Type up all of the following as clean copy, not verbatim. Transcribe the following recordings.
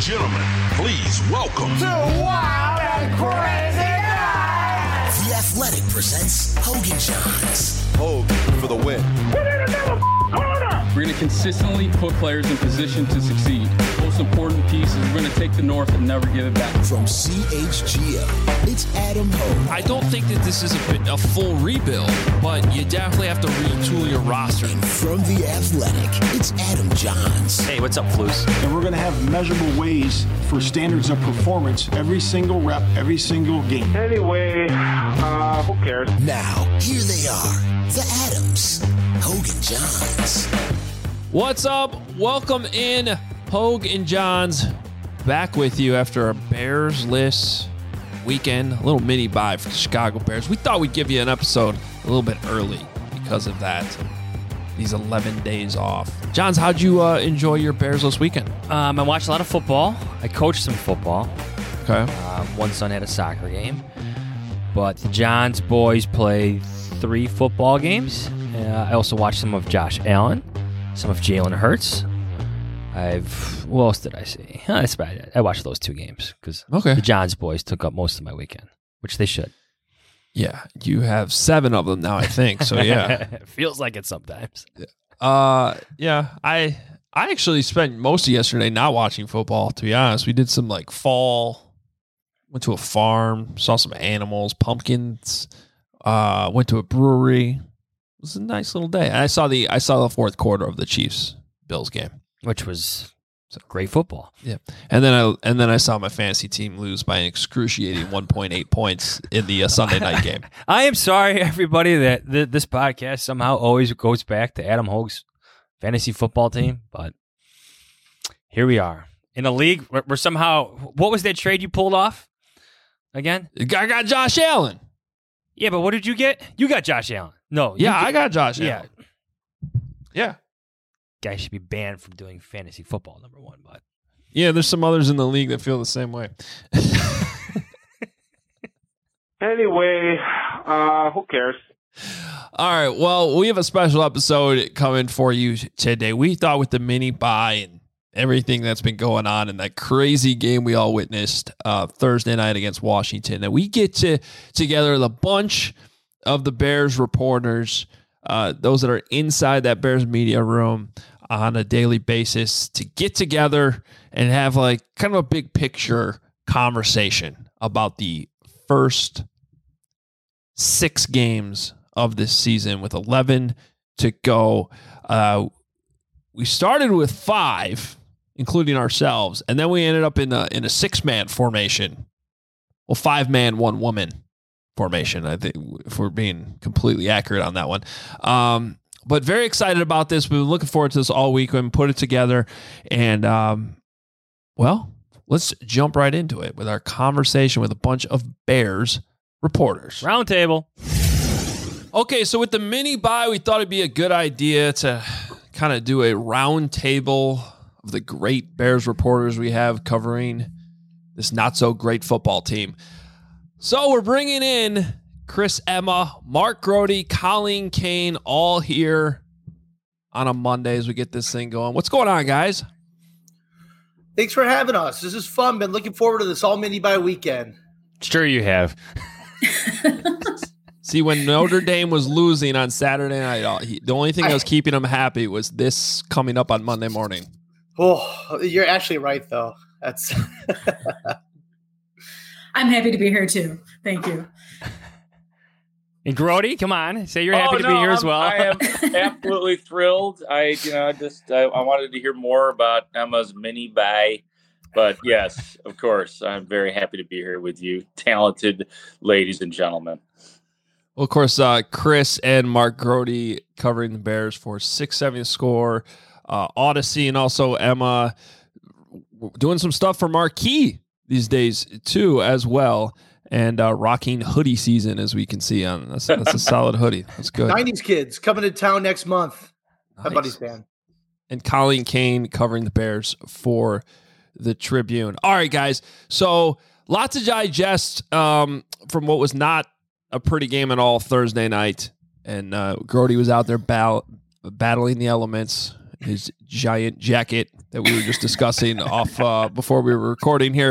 gentlemen, please welcome to Wild and Crazy Nights. The Athletic presents Hogan Johns. Hogue for the win. We're going to consistently put players in position to succeed. Most important piece is we're going to take the North and never give it back. From CHGO, it's Adam Hogue. I don't think that this is a full rebuild, but you definitely have to retool your roster. And from The Athletic, it's Adam Johns. Hey, what's up, Flus? And we're going to have measurable ways for standards of performance every single rep, every single game. Anyway, who cares? Now, here they are, the Adams, Hogan Johns. What's up? Welcome in, Hogue and Johns, back with you after a Bears-less weekend, a little mini bye for the Chicago Bears. We thought we'd give you an episode a little bit early because of that, these 11 days off. Johns, how'd you enjoy your Bears-less weekend? I watched a lot of football. I coached some football. Okay. One son had a soccer game. But the Johns boys played 3 football games. I also watched some of Josh Allen, some of Jalen Hurts. What else did I see? That's about it. I watched those 2 games because the Johns boys took up most of my weekend, which they should. Yeah, you have 7 of them now, I think. So yeah, feels like it sometimes. Yeah. I actually spent most of yesterday not watching football. To be honest, we did some fall. Went to a farm, saw some animals, pumpkins. Went to a brewery. It was a nice little day. And I saw the fourth quarter of the Chiefs-Bills game, which was great football. Yeah, and then I saw my fantasy team lose by an excruciating 1.8 points in the Sunday night game. I am sorry, everybody, that this podcast somehow always goes back to Adam Hogue's fantasy football team, but here we are in a league where somehow, what was that trade you pulled off again? I got Josh Allen. Yeah, but what did you get? You got Josh Allen. No. I got Josh Allen. Yeah. Guy should be banned from doing fantasy football, number one. But yeah, there's some others in the league that feel the same way. Anyway, who cares? All right, well, we have a special episode coming for you today. We thought with the mini bye and everything that's been going on in that crazy game we all witnessed Thursday night against Washington, that we get together with a bunch of the Bears reporters, those that are inside that Bears media room on a daily basis, to get together and have kind of a big picture conversation about the first 6 games of this season with 11 to go. We started with 5, including ourselves, and then we ended up in a 6-man formation. Well, 5-man, 1-woman formation, I think, if we're being completely accurate on that one. But very excited about this. We've been looking forward to this all week. We've put it together. And, let's jump right into it with our conversation with a bunch of Bears reporters. Roundtable. Okay, so with the mini bye, we thought it'd be a good idea to kind of do a roundtable of the great Bears reporters we have covering this not-so-great football team. So we're bringing in Chris Emma, Mark Grote, Colleen Kane, all here on a Monday as we get this thing going. What's going on, guys? Thanks for having us. This is fun. Been looking forward to this all mini bye weekend. Sure you have. See, when Notre Dame was losing on Saturday night, the only thing that was keeping him happy was this coming up on Monday morning. Oh, you're actually right, though. That's. I'm happy to be here too. Thank you. And Grote, come on, say you're happy to be here as well. I am absolutely thrilled. I wanted to hear more about Emma's mini bye, but yes, of course, I'm very happy to be here with you, talented ladies and gentlemen. Well, of course, Chris and Mark Grote covering the Bears for 670 Score, Odyssey, and also Emma doing some stuff for Marquee these days too, as well, and rocking hoodie season, as we can see on that's a solid hoodie. That's good. 90s kids coming to town next month. Nice. My buddy's band. And Colleen Kane covering the Bears for the Tribune. All right, guys. So lots to digest from what was not a pretty game at all Thursday night, and Grote was out there battling the elements his giant jacket that we were just discussing off before we were recording here.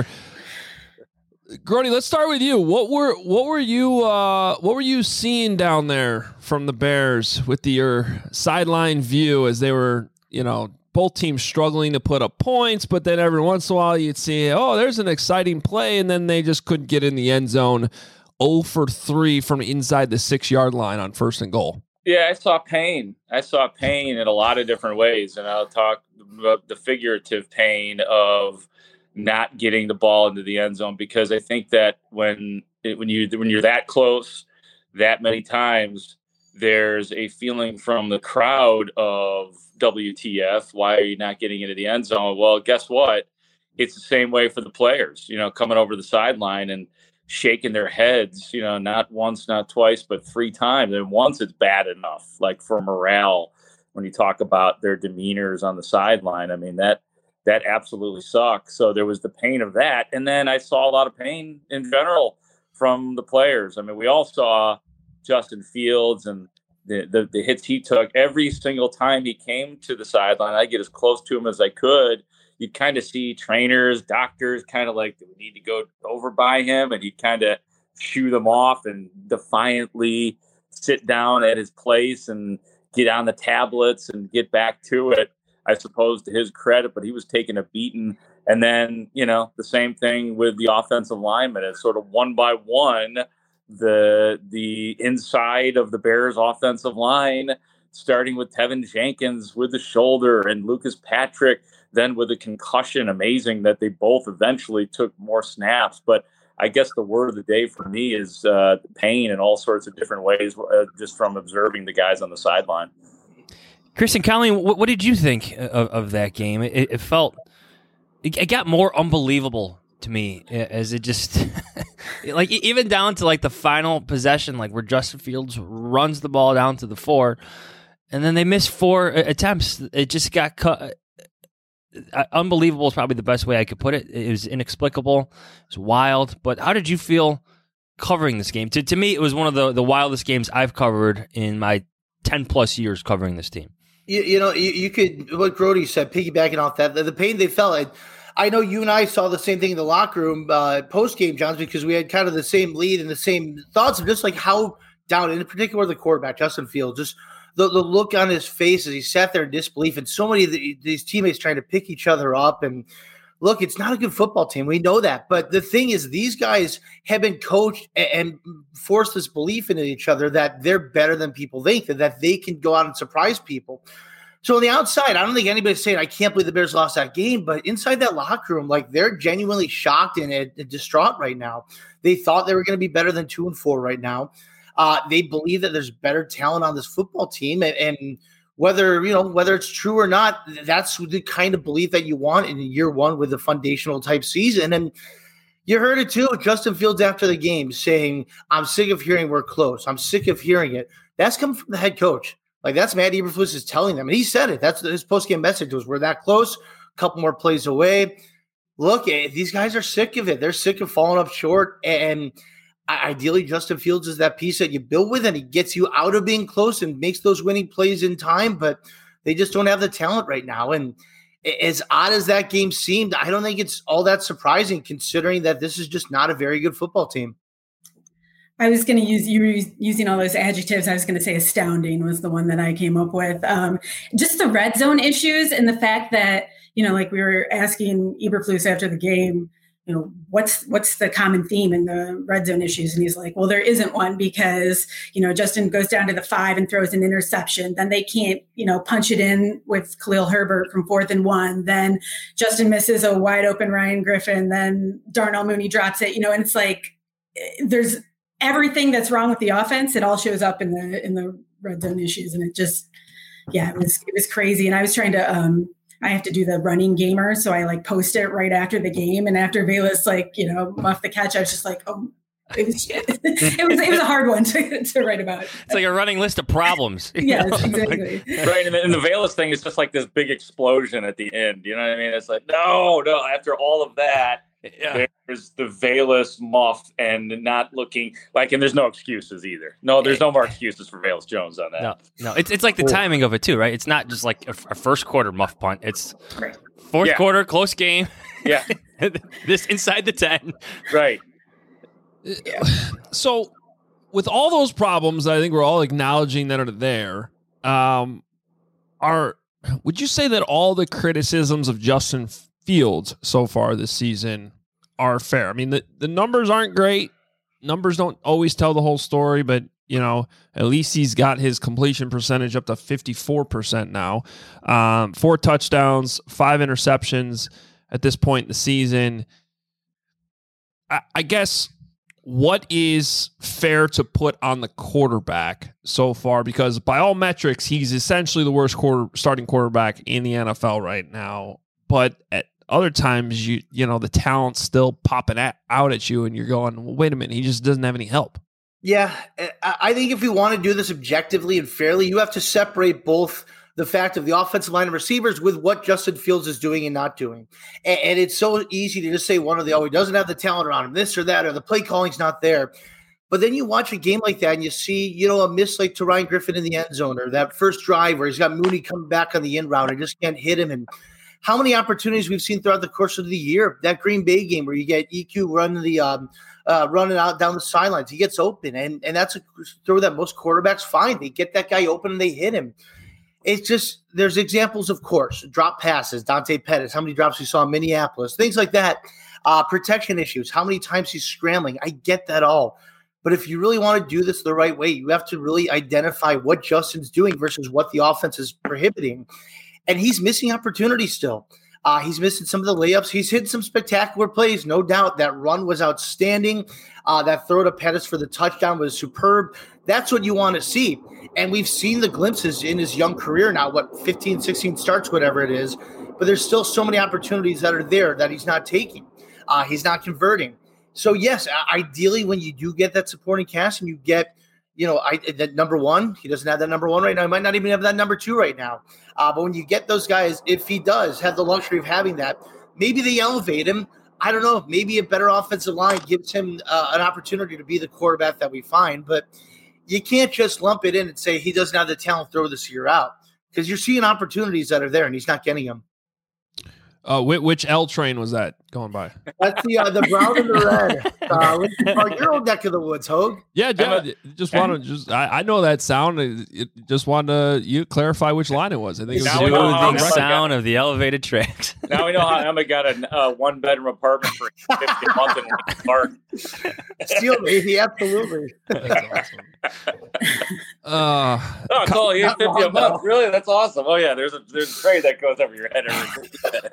Grody, let's start with you. What were you seeing down there from the Bears with your sideline view as they were, both teams struggling to put up points, but then every once in a while you'd see, there's an exciting play, and then they just couldn't get in the end zone. 0 for 3 from inside the 6-yard line on 1st and goal. Yeah, I saw pain. In a lot of different ways, and I'll talk about the figurative pain of not getting the ball into the end zone, because I think that when you're that close that many times, there's a feeling from the crowd of WTF, why are you not getting into the end zone? Well, guess what? It's the same way for the players, coming over the sideline and shaking their heads, not once, not twice, but 3 times. And once it's bad enough, like for morale, when you talk about their demeanors on the sideline, I mean, that absolutely sucks. So there was the pain of that. And then I saw a lot of pain in general from the players. I mean, we all saw Justin Fields and the hits he took. Every single time he came to the sideline, I get as close to him as I could. You'd kind of see trainers, doctors kind of like, do we need to go over by him? And he'd kind of shoo them off and defiantly sit down at his place and get on the tablets and get back to it. I suppose to his credit, but he was taking a beating. And then, the same thing with the offensive linemen. It's sort of one by one, the inside of the Bears offensive line, starting with Tevin Jenkins with the shoulder and Lucas Patrick, then with a concussion. Amazing that they both eventually took more snaps. But I guess the word of the day for me is pain in all sorts of different ways, just from observing the guys on the sideline. Kristen, Colleen, what did you think of that game? It felt, it got more unbelievable to me as it just, like even down to like the final possession, like where Justin Fields runs the ball down to the 4, and then they missed 4 attempts. It just got cut. Unbelievable is probably the best way I could put it. It was inexplicable. It was wild. But how did you feel covering this game? To me, it was one of the wildest games I've covered in my 10-plus years covering this team. You could, what Grody said, piggybacking off that, the pain they felt. I know you and I saw the same thing in the locker room post-game, Johns, because we had kind of the same lead and the same thoughts of just like how down, in particular the quarterback, Justin Fields, just the look on his face as he sat there in disbelief, and so many of these teammates trying to pick each other up. And look, it's not a good football team. We know that. But the thing is, these guys have been coached and forced this belief into each other that they're better than people think, that they can go out and surprise people. So on the outside, I don't think anybody's saying, I can't believe the Bears lost that game. But inside that locker room, like, they're genuinely shocked and distraught right now. They thought they were going to be better than 2-4 right now. They believe that there's better talent on this football team. And whether it's true or not, that's the kind of belief that you want in year one with a foundational type season. And you heard it too, Justin Fields after the game saying, I'm sick of hearing we're close. I'm sick of hearing it. That's coming from the head coach. Like, that's Matt Eberflus is telling them. And he said it. That's his post-game message was, we're that close, a couple more plays away. Look, these guys are sick of it. They're sick of falling up short. And ideally, Justin Fields is that piece that you build with, and he gets you out of being close and makes those winning plays in time, but they just don't have the talent right now. And as odd as that game seemed, I don't think it's all that surprising, considering that this is just not a very good football team. I was going to use, you were using all those adjectives. I was going to say astounding was the one that I came up with. Just the red zone issues and the fact that, like we were asking Eberflus after the game, what's the common theme in the red zone issues? And he's like, well, there isn't one because, Justin goes down to the 5 and throws an interception. Then they can't, punch it in with Khalil Herbert from 4th and 1. Then Justin misses a wide open Ryan Griffin. Then Darnell Mooney drops it, and it's like, there's everything that's wrong with the offense. It all shows up in the red zone issues. And it just, it was crazy. And I was trying to, I have to do the running gamer. So I post it right after the game. And after Velus, muffed the catch, I was just like, oh, it was a hard one to write about. It's like a running list of problems. Yes, exactly. Right. And the Velus thing is just like this big explosion at the end. You know what I mean? It's like, no, after all of that, There's the Velus muff and not looking like, and there's no excuses either. No, there's no more excuses for Velus Jones on that. No, it's like the timing of it too, right? It's not just like a first quarter muff punt. It's fourth quarter, close game. Yeah. This inside the 10. Right. So with all those problems, I think we're all acknowledging that are there. Would you say that all the criticisms of Justin Fields so far this season are fair? I mean, the numbers aren't great. Numbers don't always tell the whole story, but at least he's got his completion percentage up to 54% now. 4 touchdowns, 5 interceptions at this point in the season. I guess what is fair to put on the quarterback so far? Because by all metrics, he's essentially the worst starting quarterback in the NFL right now. But at other times, the talent's still popping out at you, and you're going, well, wait a minute, he just doesn't have any help. Yeah, I think if we want to do this objectively and fairly, you have to separate both the fact of the offensive line and receivers with what Justin Fields is doing and not doing. And it's so easy to just say one or the other. He doesn't have the talent around him, this or that, or the play calling's not there. But then you watch a game like that and you see, a miss like to Ryan Griffin in the end zone, or that first drive where he's got Mooney coming back on the in route and just can't hit him. And how many opportunities we've seen throughout the course of the year, that Green Bay game where you get EQ running out down the sidelines. He gets open, and that's a throw that most quarterbacks find. They get that guy open and they hit him. It's just, there's examples, of course, drop passes, Dante Pettis, how many drops we saw in Minneapolis, things like that. Protection issues, how many times he's scrambling. I get that all. But if you really want to do this the right way, you have to really identify what Justin's doing versus what the offense is prohibiting. And he's missing opportunities still. He's missing some of the layups. He's hit some spectacular plays, no doubt. That run was outstanding. That throw to Pettis for the touchdown was superb. That's what you want to see. And we've seen the glimpses in his young career now, 15, 16 starts, whatever it is. But there's still so many opportunities that are there that he's not taking. He's not converting. So, yes, ideally when you do get that supporting cast and you get, that number one, he doesn't have that number one right now. He might not even have that number two right now. But when you get those guys, if he does have the luxury of having that, maybe they elevate him. I don't know. Maybe a better offensive line gives him an opportunity to be the quarterback that we find. But you can't just lump it in and say he doesn't have the talent, throw this year out. Because you're seeing opportunities that are there, and he's not getting them. Which L train was that going by? That's the brown and the red. Lincoln Park, your old neck of the woods, Hogue. Yeah, I know that sound. Just wanted to clarify which line it was. I think it was the sound of the elevated tracks. Now we know how Emma got a 1-bedroom apartment for $50 a month in Lincoln Park. Steel baby, absolutely. That's awesome. It's only $50 a month. Really, that's awesome. Oh yeah, there's a tray that goes over your head every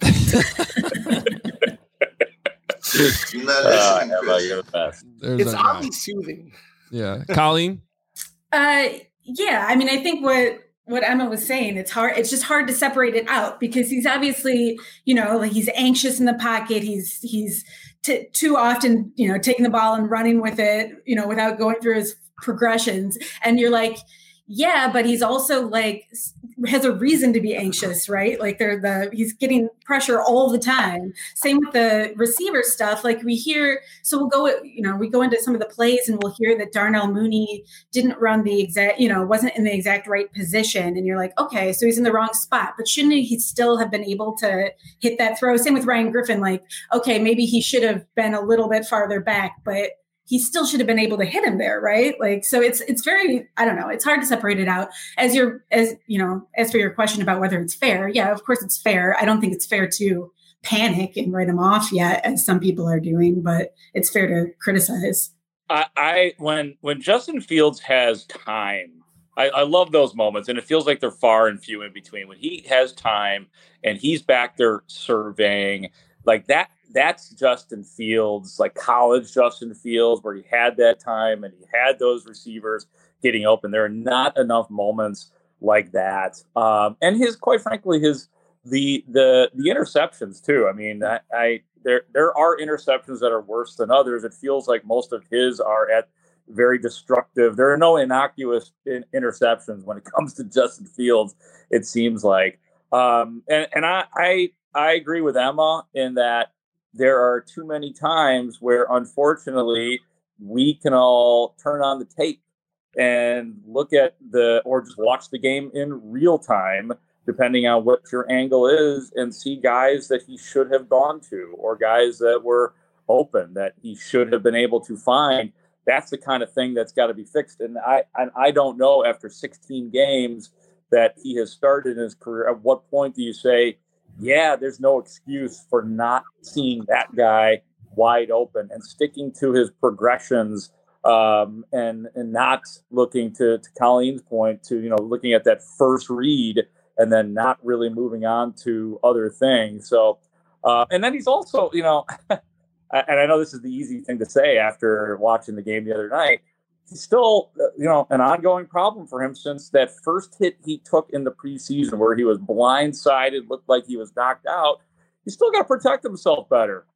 You're not listening, you're the best. It's oddly soothing. Yeah, Colleen. Yeah, I mean, I think what Emma was saying, it's hard. It's just hard to separate it out because he's obviously, he's anxious in the pocket. He's too often, taking the ball and running with it, without going through his progressions. And you're like, yeah, but he's also has a reason to be anxious, right? He's getting pressure all the time. Same with the receiver stuff. We hear, so we go into some of the plays and we'll hear that Darnell Mooney didn't run the exact, wasn't in the exact right position. And you're like, okay, so he's in the wrong spot, but shouldn't he still have been able to hit that throw? Same with Ryan Griffin. Okay, maybe he should have been a little bit farther back, but he still should have been able to hit him there, right? So it's very, I don't know, it's hard to separate it out. As for your question about whether it's fair, yeah, of course it's fair. I don't think it's fair to panic and write him off yet, as some people are doing, but it's fair to criticize. When Justin Fields has time, I love those moments, and it feels like they're far and few in between. When he has time and he's back there surveying, that. That's Justin Fields, college Justin Fields, where he had that time and he had those receivers getting open. There are not enough moments like that. And quite frankly, the interceptions too. I mean, there are interceptions that are worse than others. It feels like most of his are at very destructive. There are no innocuous interceptions when it comes to Justin Fields, it seems like. And I agree with Emma in that there are too many times where, unfortunately, we can all turn on the tape and look at or just watch the game in real time, depending on what your angle is, and see guys that he should have gone to or guys that were open that he should have been able to find. That's the kind of thing that's got to be fixed. And I don't know, after 16 games that he has started in his career, at what point do you say, yeah, there's no excuse for not seeing that guy wide open and sticking to his progressions, and not looking to Colleen's point to, looking at that first read and then not really moving on to other things. So, and then he's also, and I know this is the easy thing to say after watching the game the other night, he's still, an ongoing problem for him since that first hit he took in the preseason where he was blindsided, looked like he was knocked out. He's still got to protect himself better.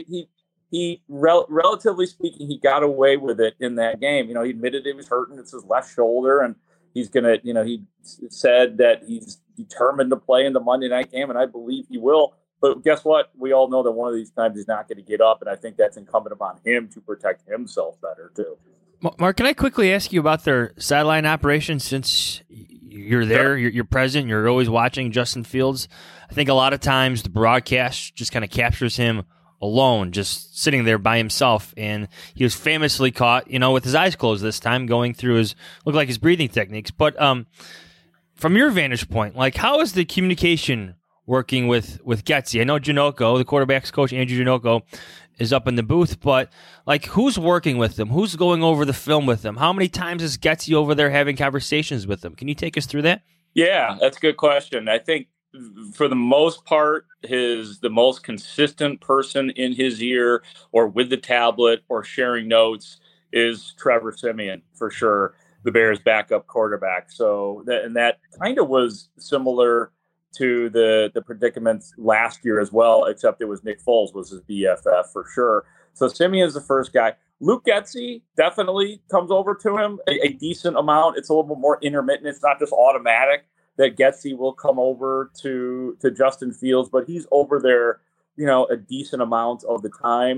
Relatively speaking, he got away with it in that game. He admitted he was hurting. It's his left shoulder, and he's going to, he said that he's determined to play in the Monday night game, and I believe he will. But guess what? We all know that one of these times he's not going to get up, and I think that's incumbent upon him to protect himself better, too. Mark, can I quickly ask you about their sideline operation since you're there, you're present, you're always watching Justin Fields? I think a lot of times the broadcast just kind of captures him alone, just sitting there by himself, and he was famously caught, with his eyes closed this time, going through his breathing techniques. But from your vantage point, how is the communication working with Getsy? I know Janocko, the quarterback's coach, Andrew Janocko, is up in the booth, but who's working with them? Who's going over the film with them? How many times is Getsy over there having conversations with them? Can you take us through that? Yeah, that's a good question. I think for the most part, the most consistent person in his ear or with the tablet or sharing notes is Trevor Siemian, for sure, the Bears' backup quarterback. So that kind of was similar to the predicaments last year as well, except it was Nick Foles was his BFF for sure. So Siemian's the first guy. Luke Getsy definitely comes over to him a decent amount. It's a little bit more intermittent. It's not just automatic that Getsy will come over to Justin Fields, but he's over there, a decent amount of the time.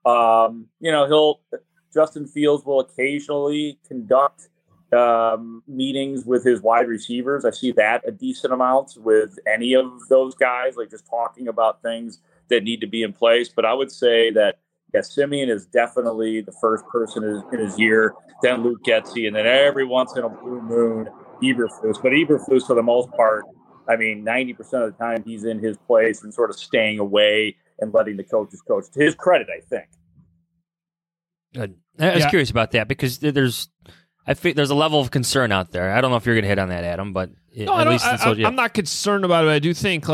Justin Fields will occasionally conduct meetings with his wide receivers. I see that a decent amount with any of those guys, just talking about things that need to be in place. But I would say that, Siemian is definitely the first person in his ear, then Luke Getsy, and then every once in a blue moon, Eberflus. But Eberflus, for the most part, 90% of the time he's in his place and sort of staying away and letting the coaches coach. To his credit, I think. Good. I was curious about that because there's a level of concern out there. I don't know if you're going to hit on that, Adam, but I'm not concerned about it. I do think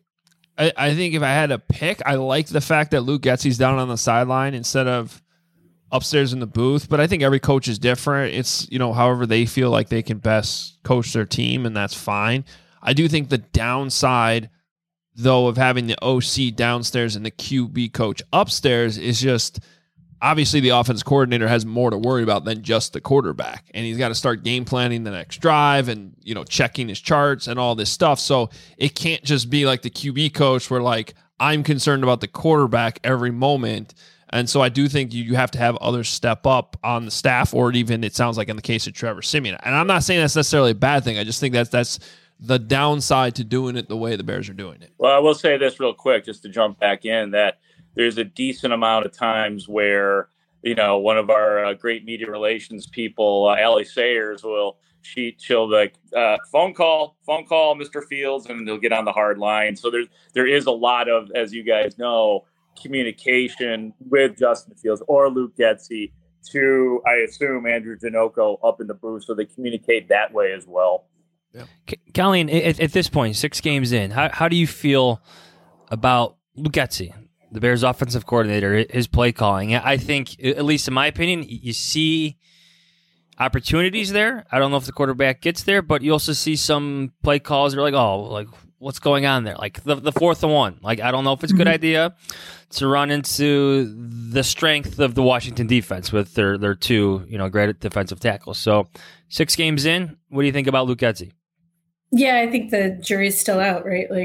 I think if I had to pick, I like the fact that Luke Getsy's down on the sideline instead of upstairs in the booth. But I think every coach is different. It's, however they feel like they can best coach their team, and that's fine. I do think the downside, though, of having the OC downstairs and the QB coach upstairs is just obviously the offense coordinator has more to worry about than just the quarterback. And he's got to start game planning the next drive and, checking his charts and all this stuff. So it can't just be like the QB coach where I'm concerned about the quarterback every moment. And so I do think you have to have others step up on the staff, or even it sounds like in the case of Trevor Siemian. And I'm not saying that's necessarily a bad thing. I just think that's the downside to doing it the way the Bears are doing it. Well, I will say this real quick, just to jump back in, that there's a decent amount of times where, one of our great media relations people, Allie Sayers, she'll phone call, Mr. Fields, and they'll get on the hard line. So there is a lot of, as you guys know, communication with Justin Fields or Luke Getsy to, I assume, Andrew Janocko up in the booth. So they communicate that way as well. Yeah. Colleen, at this point, 6 games in, how do you feel about Luke Getsy, the Bears' offensive coordinator, his play calling? I think, at least in my opinion, you see opportunities there. I don't know if the quarterback gets there, but you also see some play calls that are what's going on there? The 4th and 1. I don't know if it's a good idea to run into the strength of the Washington defense with their 2, great defensive tackles. So 6 games in, what do you think about Luke Getsy? Yeah, I think the jury's still out, right?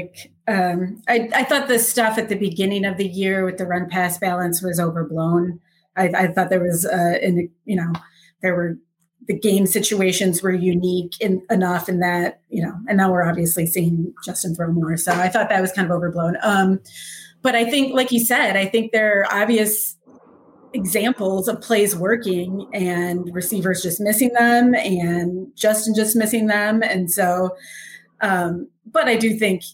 I thought the stuff at the beginning of the year with the run pass balance was overblown. I thought there was, there were the game situations were unique enough in that, and now we're obviously seeing Justin throw more. So I thought that was kind of overblown. But I think, like you said, I think there are obvious examples of plays working and receivers just missing them and Justin just missing them. And so, but I do think,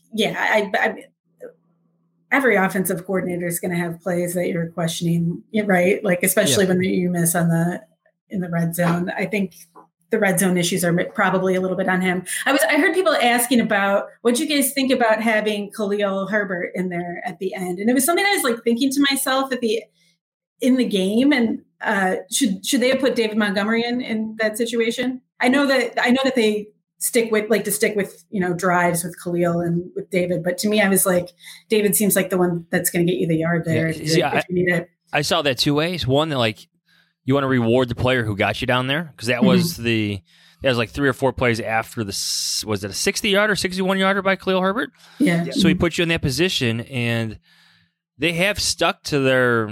every offensive coordinator is going to have plays that you're questioning, right? Like, especially when you miss in the red zone. I think the red zone issues are probably a little bit on him. I heard people asking about what you guys think about having Khalil Herbert in there at the end. And it was something I was like thinking to myself in the game. And should they have put David Montgomery in that situation? I know that they stick with drives with Khalil and with David. But to me, I was like, David seems like the one that's going to get you the yard there if you need it. I saw that two ways. One, that like you want to reward the player who got you down there, because that was that was like 3 or 4 plays after was it a 60-yarder, 61-yarder by Khalil Herbert? Yeah. So he put you in that position, and they have stuck to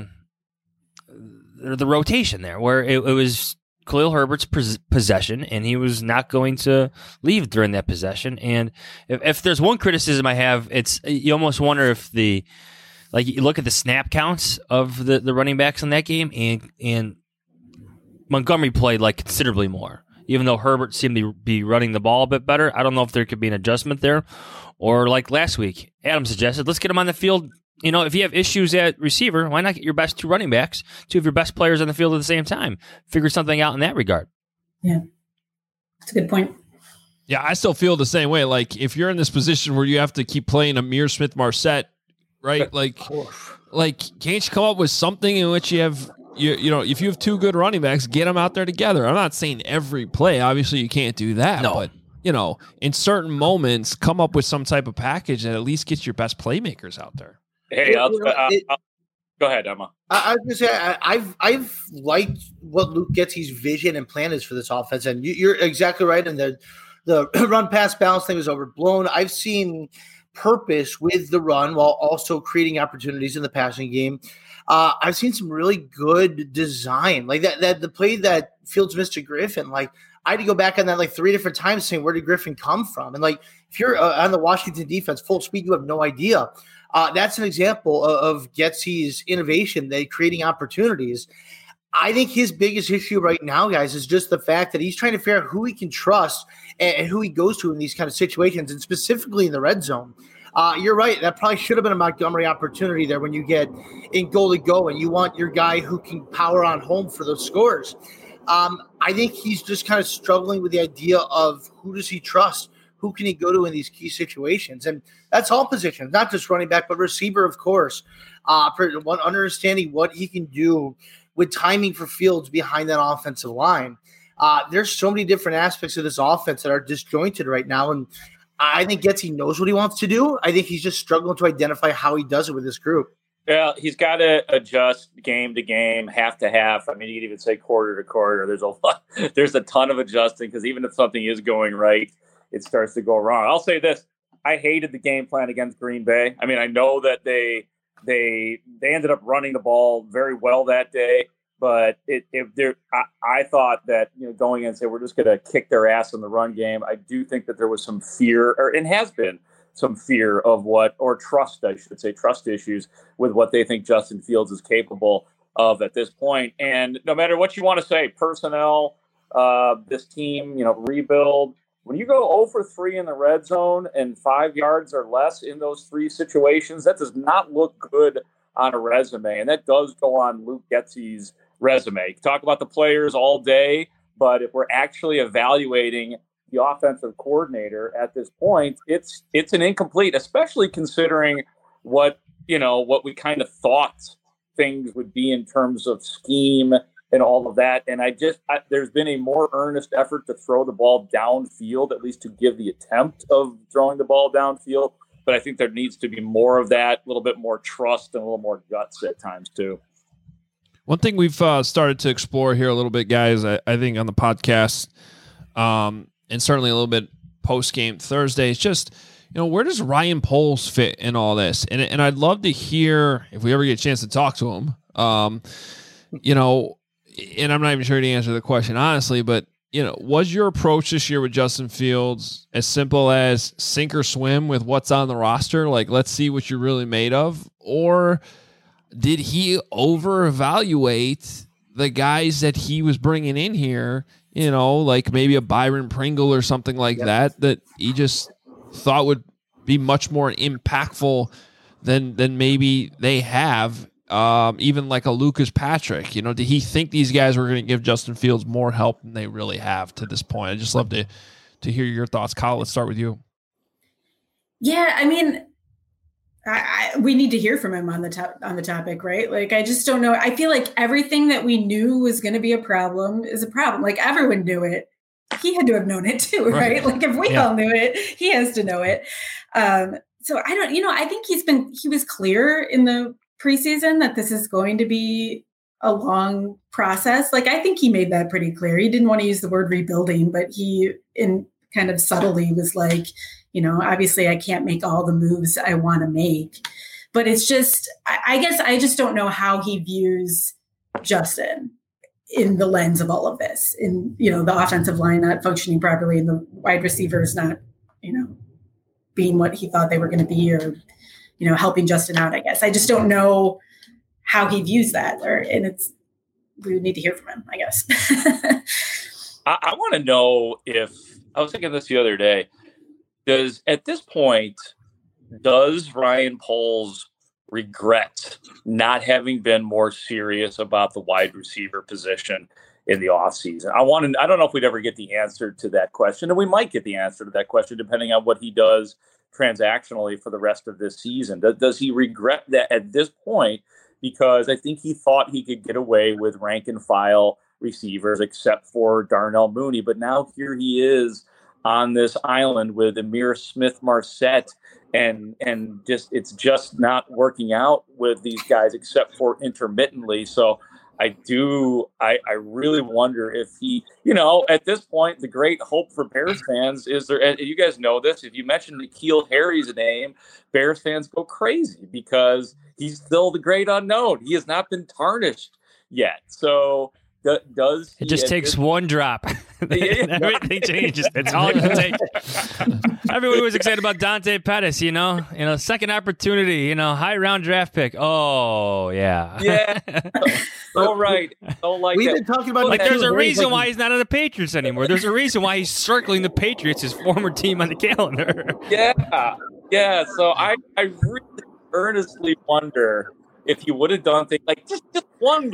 the rotation there, where it was Khalil Herbert's possession, and he was not going to leave during that possession. And if there's one criticism I have, it's you almost wonder if you look at the snap counts of the running backs in that game, and Montgomery played like considerably more, even though Herbert seemed to be running the ball a bit better. I don't know if there could be an adjustment there, or like last week, Adam suggested, let's get him on the field. If you have issues at receiver, why not get your best 2 running backs, 2 of your best players on the field at the same time? Figure something out in that regard. Yeah, that's a good point. Yeah, I still feel the same way. Like, if you're in this position where you have to keep playing Amir Smith-Marset, right? Like, can't you come up with something in which you have, if you have 2 good running backs, get them out there together. I'm not saying every play. Obviously, you can't do that. No. But, in certain moments, come up with some type of package that at least gets your best playmakers out there. Hey, go ahead, Emma. I was going to say, I've liked what Luke Getsy's vision and plan is for this offense, and you're exactly right. And the run pass balance thing was overblown. I've seen purpose with the run while also creating opportunities in the passing game. I've seen some really good design, like that the play that Fields missed to Griffin. Like, I had to go back on that like 3 different times, saying, where did Griffin come from? And like, if you're on the Washington defense full speed, you have no idea. That's an example of Getsy's innovation, they creating opportunities. I think his biggest issue right now, guys, is just the fact that he's trying to figure out who he can trust and who he goes to in these kind of situations, and specifically in the red zone. You're right. That probably should have been a Montgomery opportunity there when you get in goal to go and you want your guy who can power on home for those scores. I think he's just kind of struggling with the idea of who does he trust? Who can he go to in these key situations? And that's all positions, not just running back, but receiver, of course. Understanding what he can do with timing for Fields behind that offensive line. There's so many different aspects of this offense that are disjointed right now. And I think Getsy knows what he wants to do. I think he's just struggling to identify how he does it with this group. Yeah, he's got to adjust game to game, half to half. I mean, you could even say quarter to quarter. There's a ton of adjusting, because even if something is going right, it starts to go wrong. I'll say this. I hated the game plan against Green Bay. I mean, I know that they ended up running the ball very well that day, but I thought that, going in and say, we're just going to kick their ass in the run game. I do think that there was some fear, and has been some fear of trust, I should say, trust issues with what they think Justin Fields is capable of at this point. And no matter what you want to say, personnel, this team, rebuild, when you go 0 for 3 in the red zone and 5 yards or less in those 3 situations, that does not look good on a resume. And that does go on Luke Getsy's resume. Talk about the players all day, but if we're actually evaluating the offensive coordinator at this point, it's an incomplete, especially considering what we kind of thought things would be in terms of scheme and all of that. And there's been a more earnest effort to throw the ball downfield, at least to give the attempt of throwing the ball downfield. But I think there needs to be more of that, a little bit more trust and a little more guts at times too. One thing we've started to explore here a little bit, guys, I think on the podcast, and certainly a little bit post-game Thursday, is just, where does Ryan Poles fit in all this? And I'd love to hear if we ever get a chance to talk to him. And I'm not even sure to answer the question honestly, but was your approach this year with Justin Fields as simple as sink or swim with what's on the roster? Like, let's see what you're really made of, or did he over evaluate the guys that he was bringing in here? Like maybe a Byron Pringle or something like that he just thought would be much more impactful than maybe they have. Even like a Lucas Patrick, did he think these guys were going to give Justin Fields more help than they really have to this point? I'd just love to hear your thoughts. Kyle, let's start with you. Yeah, I mean, we need to hear from him on the topic, right? Like, I just don't know. I feel like everything that we knew was going to be a problem is a problem. Like, everyone knew it. He had to have known it too, right? Like, if we all knew it, he has to know it. So I don't, I think he was clear in the preseason that this is going to be a long process. Like, I think he made that pretty clear. He didn't want to use the word rebuilding, but he, in kind of subtly, was like, obviously I can't make all the moves I want to make, but it's just, I guess I just don't know how he views Justin in the lens of all of this, in, the offensive line not functioning properly and the wide receivers not, being what he thought they were going to be, or, helping Justin out, I guess. I just don't know how he views that, we would need to hear from him, I guess. I want to know if, I was thinking this the other day, at this point, does Ryan Poles regret not having been more serious about the wide receiver position in the offseason? I don't know if we'd ever get the answer to that question, and we might get the answer to that question depending on what he does transactionally for the rest of this season. Does he regret that at this point? Because I think he thought he could get away with rank and file receivers except for Darnell Mooney, but now here he is on this island with Amir Smith-Marset, and it's just not working out with these guys except for intermittently. So I really wonder if he, at this point, the great hope for Bears fans is there, and you guys know this, if you mention N'Keal Harry's name, Bears fans go crazy because he's still the great unknown. He has not been tarnished yet. So does it just takes one drop. Everything changes. That's all it takes. Everyone was excited about Dante Pettis, second opportunity, high round draft pick. Oh, yeah. Yeah. So right. We've been talking about there's a reason why he's not on the Patriots anymore. There's a reason why he's circling the Patriots, his former team, on the calendar. Yeah. Yeah. So I really earnestly wonder if he would have done things like just wonder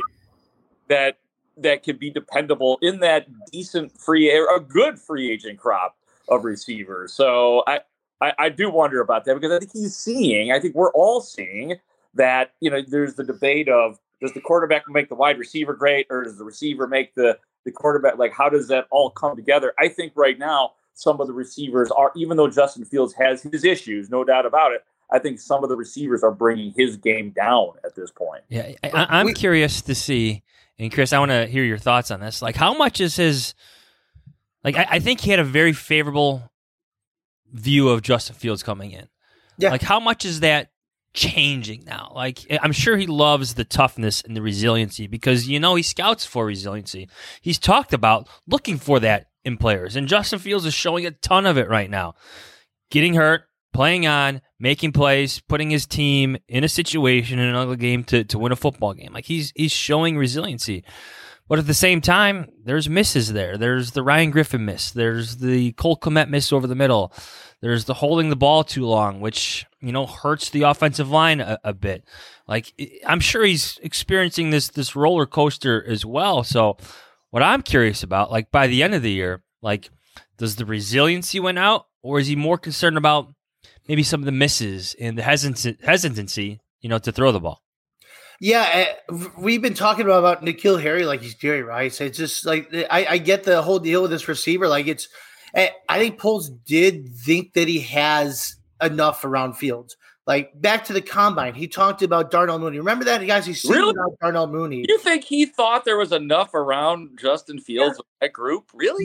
that could be dependable in that decent a good free agent crop of receivers. So I do wonder about that, because I think we're all seeing that, there's the debate of, does the quarterback make the wide receiver great, or does the receiver make the quarterback? Like, how does that all come together? I think right now, some of the receivers are, even though Justin Fields has his issues, no doubt about it, I think some of the receivers are bringing his game down at this point. Yeah, I'm curious to see. And Chris, I want to hear your thoughts on this. Like, how much is his? Like, I think he had a very favorable view of Justin Fields coming in. Yeah. Like, how much is that changing now? Like, I'm sure he loves the toughness and the resiliency, because he scouts for resiliency. He's talked about looking for that in players, and Justin Fields is showing a ton of it right now. Getting hurt, playing on, making plays, putting his team in a situation in another game to win a football game. Like, he's showing resiliency. But at the same time, there's misses there. There's the Ryan Griffin miss. There's the Cole Kmet miss over the middle. There's the holding the ball too long, which, hurts the offensive line a bit. Like, I'm sure he's experiencing this roller coaster as well. So what I'm curious about, like, by the end of the year, like, does the resiliency win out, or is he more concerned about maybe some of the misses and the hesitancy, to throw the ball? Yeah, we've been talking about N'Keal Harry like he's Jerry Rice. It's just like, I get the whole deal with this receiver. Like, I think Poles did think that he has enough around Fields. Like, back to the combine, he talked about Darnell Mooney. Remember that, guys? He's really about Darnell Mooney. You think he thought there was enough around Justin Fields with that group? Really? Yeah.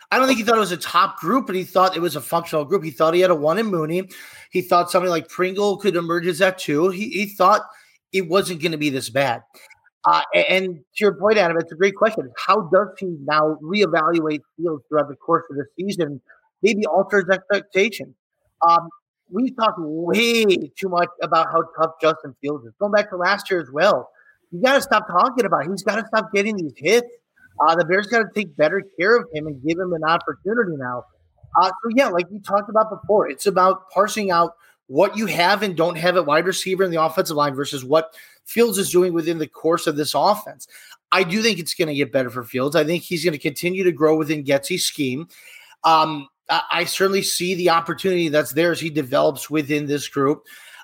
I don't think he thought it was a top group, but he thought it was a functional group. He thought he had a one in Mooney. He thought somebody like Pringle could emerge as that too. He thought it wasn't going to be this bad. And to your point, Adam, it's a great question. How does he now reevaluate Fields throughout the course of the season? Maybe alter his expectation. We talked way too much about how tough Justin Fields is. Going back to last year as well. You got to stop talking about it. He's got to stop getting these hits. The Bears got to take better care of him and give him an opportunity now. So, yeah, like we talked about before, it's about parsing out what you have and don't have at wide receiver in the offensive line versus what Fields is doing within the course of this offense. I do think it's going to get better for Fields. I think he's going to continue to grow within Getsy's scheme. I certainly see the opportunity that's there as he develops within this group.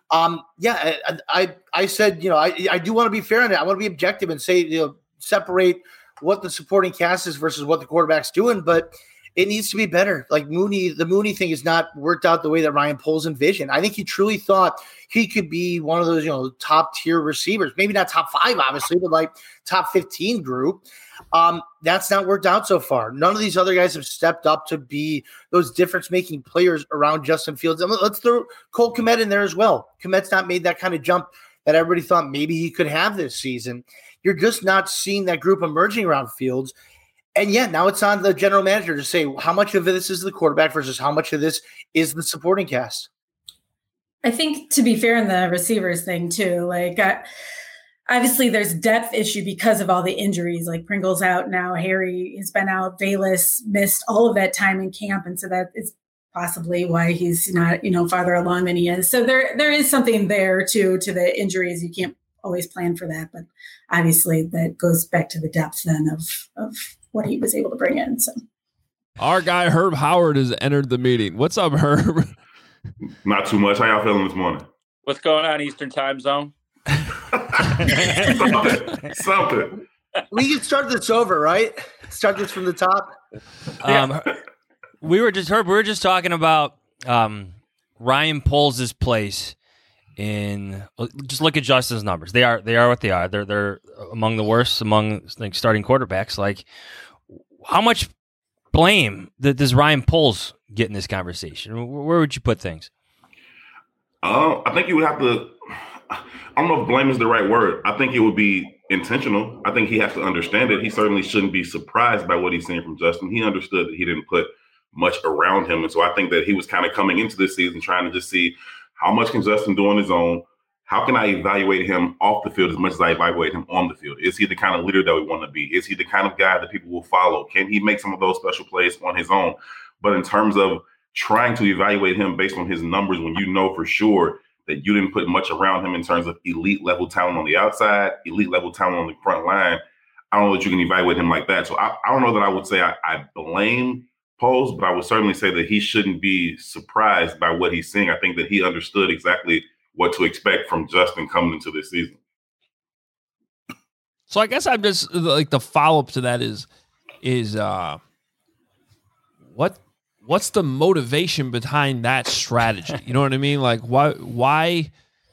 I said, I do want to be fair on it. I want to be objective and say, separate what the supporting cast is versus what the quarterback's doing, but it needs to be better. Like the Mooney thing is not worked out the way that Ryan Poles envisioned. I think he truly thought he could be one of those, top tier receivers, maybe not top 5, obviously, but like top 15 group. That's not worked out so far. None of these other guys have stepped up to be those difference-making players around Justin Fields. And let's throw Cole Kmet in there as well. Kmet's not made that kind of jump that everybody thought maybe he could have this season. You're just not seeing that group emerging around Fields. And yeah, now it's on the general manager to say how much of this is the quarterback versus how much of this is the supporting cast. I think, to be fair, in the receivers thing too, obviously there's depth issue because of all the injuries. Like Pringle's out now, Harry has been out, Bayless missed all of that time in camp, and so that is possibly why he's not farther along than he is. So there is something there too to the injuries. You can't always plan for that, but obviously that goes back to the depth then of what he was able to bring in. So our guy Herb Howard has entered the meeting. What's up, Herb? Not too much. How y'all feeling this morning? What's going on, Eastern Time Zone? Something. We can start this over, right? Start this from the top. We were just talking about Ryan Poles' place in. Just look at Justin's numbers. They are what they are. They're among the worst among starting quarterbacks. Like, how much blame does Ryan Poles get in this conversation? Where would you put things? I think you would have to. I don't know if blame is the right word. I think it would be intentional. I think he has to understand it. He certainly shouldn't be surprised by what he's seeing from Justin. He understood that he didn't put much around him. And so I think that he was kind of coming into this season trying to just see how much can Justin do on his own? How can I evaluate him off the field as much as I evaluate him on the field? Is he the kind of leader that we want to be? Is he the kind of guy that people will follow? Can he make some of those special plays on his own? But in terms of trying to evaluate him based on his numbers, when you know for sure that you didn't put much around him in terms of elite level talent on the outside, elite level talent on the front line, I don't know that you can evaluate him like that. So I don't know that I would say I blame Poles, but I would certainly say that he shouldn't be surprised by what he's seeing. I think that he understood exactly what to expect from Justin coming into this season. So I guess I'm just like the follow-up to that is what's the motivation behind that strategy? You know what I mean? Like why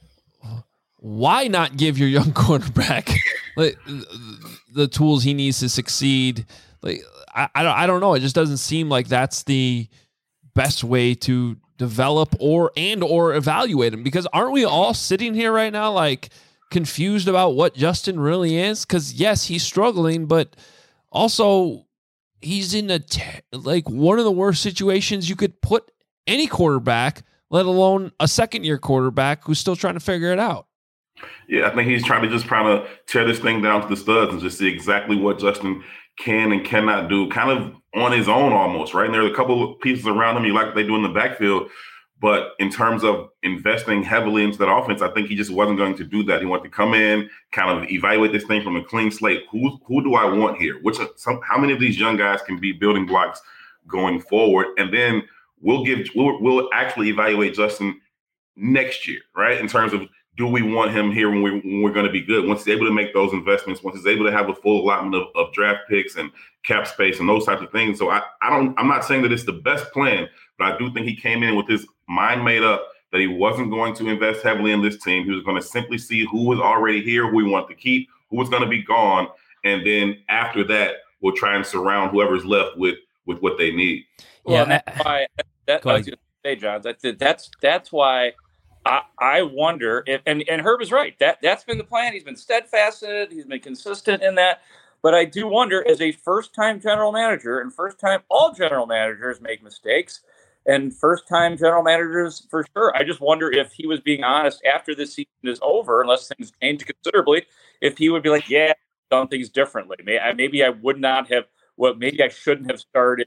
not give your young quarterback like the tools he needs to succeed? Like I don't know. It just doesn't seem like that's the best way to develop or evaluate him, because aren't we all sitting here right now like confused about what Justin really is? Because yes, he's struggling, but also he's in one of the worst situations you could put any quarterback, let alone a second-year quarterback who's still trying to figure it out. Yeah, I think he's trying to tear this thing down to the studs and just see exactly what Justin can and cannot do, kind of on his own almost, right? And there are a couple of pieces around him you like what they do in the backfield, but in terms of investing heavily into that offense, I think he just wasn't going to do that. He wanted to come in, kind of evaluate this thing from a clean slate. Who do I want here? How many of these young guys can be building blocks going forward? And then we'll actually evaluate Justin next year, right? In terms of, do we want him here when we're going to be good? Once he's able to make those investments, once he's able to have a full allotment of draft picks and cap space and those types of things. So I'm not saying that it's the best plan, but I do think he came in with his mind made up that he wasn't going to invest heavily in this team. He was going to simply see who was already here, who we want to keep, who was going to be gone. And then after that, we'll try and surround whoever's left with with what they need. Well, that's why I was going to say, Johns. That's why I wonder if and Herb is right. That's been the plan. He's been steadfast in it. He's been consistent in that. But I do wonder, as a first-time general manager, and first-time all general managers make mistakes, and first-time general managers for sure. I just wonder if he was being honest after this season is over, unless things change considerably, if he would be like, yeah, I've done things differently. Maybe I would not have. Well, maybe I shouldn't have started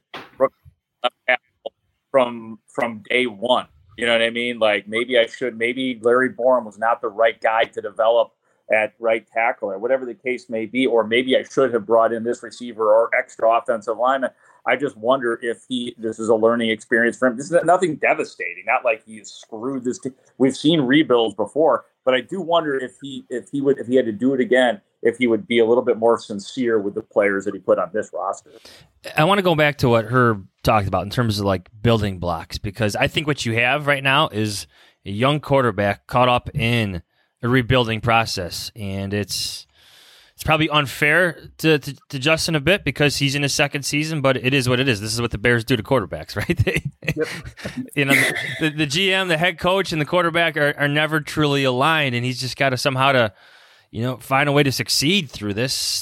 from day one. You know what I mean? Like maybe I should. Maybe Larry Borom was not the right guy to develop at right tackle or whatever the case may be, or maybe I should have brought in this receiver or extra offensive lineman. I just wonder if this is a learning experience for him. This is nothing devastating, not like he screwed this team. We've seen rebuilds before, but I do wonder if he had to do it again, if he would be a little bit more sincere with the players that he put on this roster. I want to go back to what Herb talked about in terms of like building blocks, because I think what you have right now is a young quarterback caught up in a rebuilding process, and it's probably unfair to Justin a bit because he's in his second season, but it is what it is. This is what the Bears do to quarterbacks, right? You know, the GM, the head coach, and the quarterback are never truly aligned, and he's just got to somehow find a way to succeed through